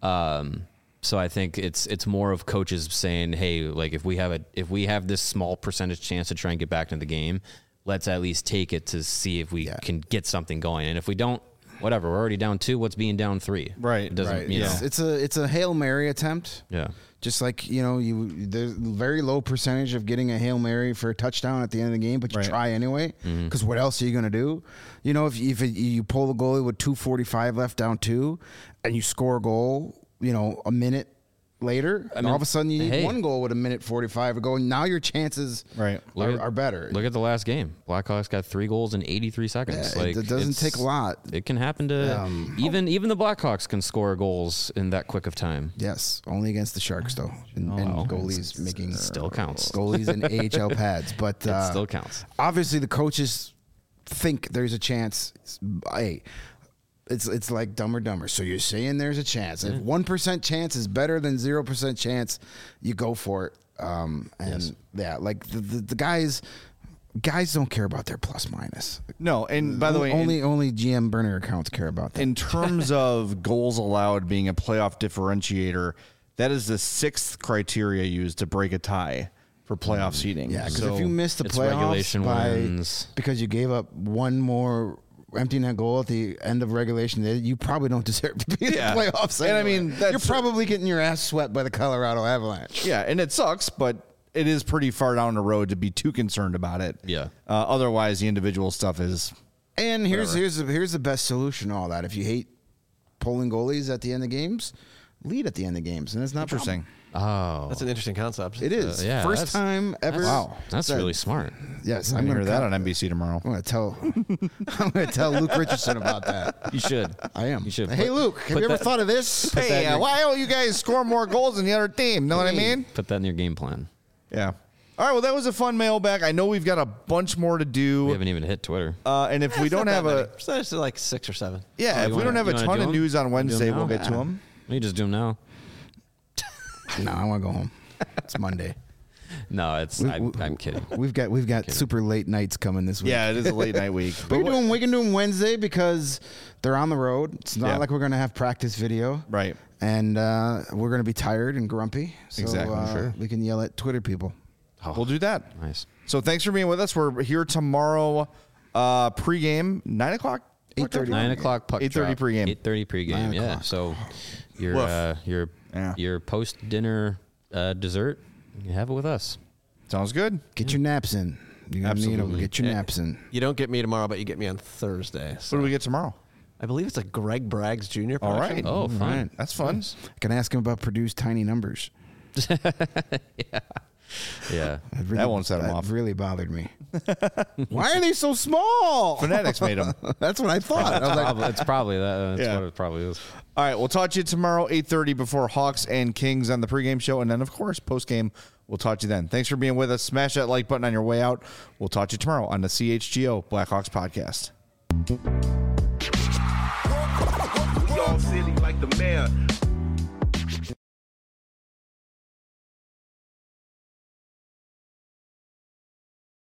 So I think it's more of coaches saying, hey, like if we have this small percentage chance to try and get back into the game, let's at least take it to see if we can get something going. And if we don't, whatever, we're already down 2. What's being down 3? Right. It doesn't, you know. It's a Hail Mary attempt. Yeah. Just like, there's a very low percentage of getting a Hail Mary for a touchdown at the end of the game, but you try anyway, because what else are you going to do? If you pull the goalie with 2:45 left down 2 and you score a goal, a minute later, and all of a sudden you need one goal with a minute 45 ago, and now your chances are better. Look at the last game. Blackhawks got 3 goals in 83 seconds. Yeah, it doesn't take a lot. It can happen to even the Blackhawks can score goals in that quick of time. Yes, only against the Sharks though, and goalies making still counts. Goalies in AHL pads, but it still counts. Obviously, the coaches think there's a chance. Hey. It's like Dumb or Dumber. So you're saying there's a chance. If 1% chance is better than 0% chance, you go for it. Like the guys don't care about their plus minus. No, and by the way, only GM burner accounts care about that. In terms of goals allowed being a playoff differentiator, that is the 6th criteria used to break a tie for playoff seeding. Yeah, because if you miss the playoffs regulation wins because you gave up one more empty net goal at the end of regulation, you probably don't deserve to be in the playoffs. And I mean, you're probably getting your ass swept by the Colorado Avalanche. Yeah, and it sucks, but it is pretty far down the road to be too concerned about it. Yeah. Otherwise, the individual stuff is. And here's the best solution to all that. If you hate pulling goalies at the end of games, lead at the end of games, and it's not Interesting. Oh, That's an interesting concept. It is. First time ever. Wow. that's really smart. Yes, I'm going to hear that on NBC tomorrow. I'm going to tell Luke Richardson about that. You should. I am. You should. Hey, Luke, have you ever thought of this? Hey, why don't you guys score more goals than the other team? Know what I mean? Put that in your game plan. Yeah. All right, well, that was a fun mailbag. I know we've got a bunch more to do. We haven't even hit Twitter. And if we don't have So it's like 6 or 7. if we don't have a ton of news on Wednesday, we'll get to them. You just do them now. No, I want to go home. It's Monday. No, I'm kidding. We've got super late nights coming this week. Yeah, it is a late night week. we can do them Wednesday because they're on the road. It's not like we're going to have practice video. Right. And we're going to be tired and grumpy. So, Exactly, sure. We can yell at Twitter people. We'll do that. Nice. So thanks for being with us. We're here tomorrow, pregame, 9 o'clock? 8:30. 9 o'clock puck 8:30 drop. pregame. 8:30 pregame. Yeah. So your post dinner dessert, you have it with us. Sounds good. Get your naps in. You're going to need them. Get your naps in. You don't get me tomorrow, but you get me on Thursday. What do we get tomorrow? I believe it's a Greg Braggs Jr. All production. right. Oh, fine. That's fun. Nice. I can ask him about Purdue's tiny numbers. Yeah. That won't set him off. That really bothered me. Why are they so small? Fanatics made them. That's what I thought. I was like, It's probably that. That's Yeah. what it probably is. All right, we'll talk to you tomorrow, 8:30 before Hawks and Kings on the pregame show. And then, of course, postgame, we'll talk to you then. Thanks for being with us. Smash that like button on your way out. We'll talk to you tomorrow on the CHGO Blackhawks podcast. We all silly like the mayor.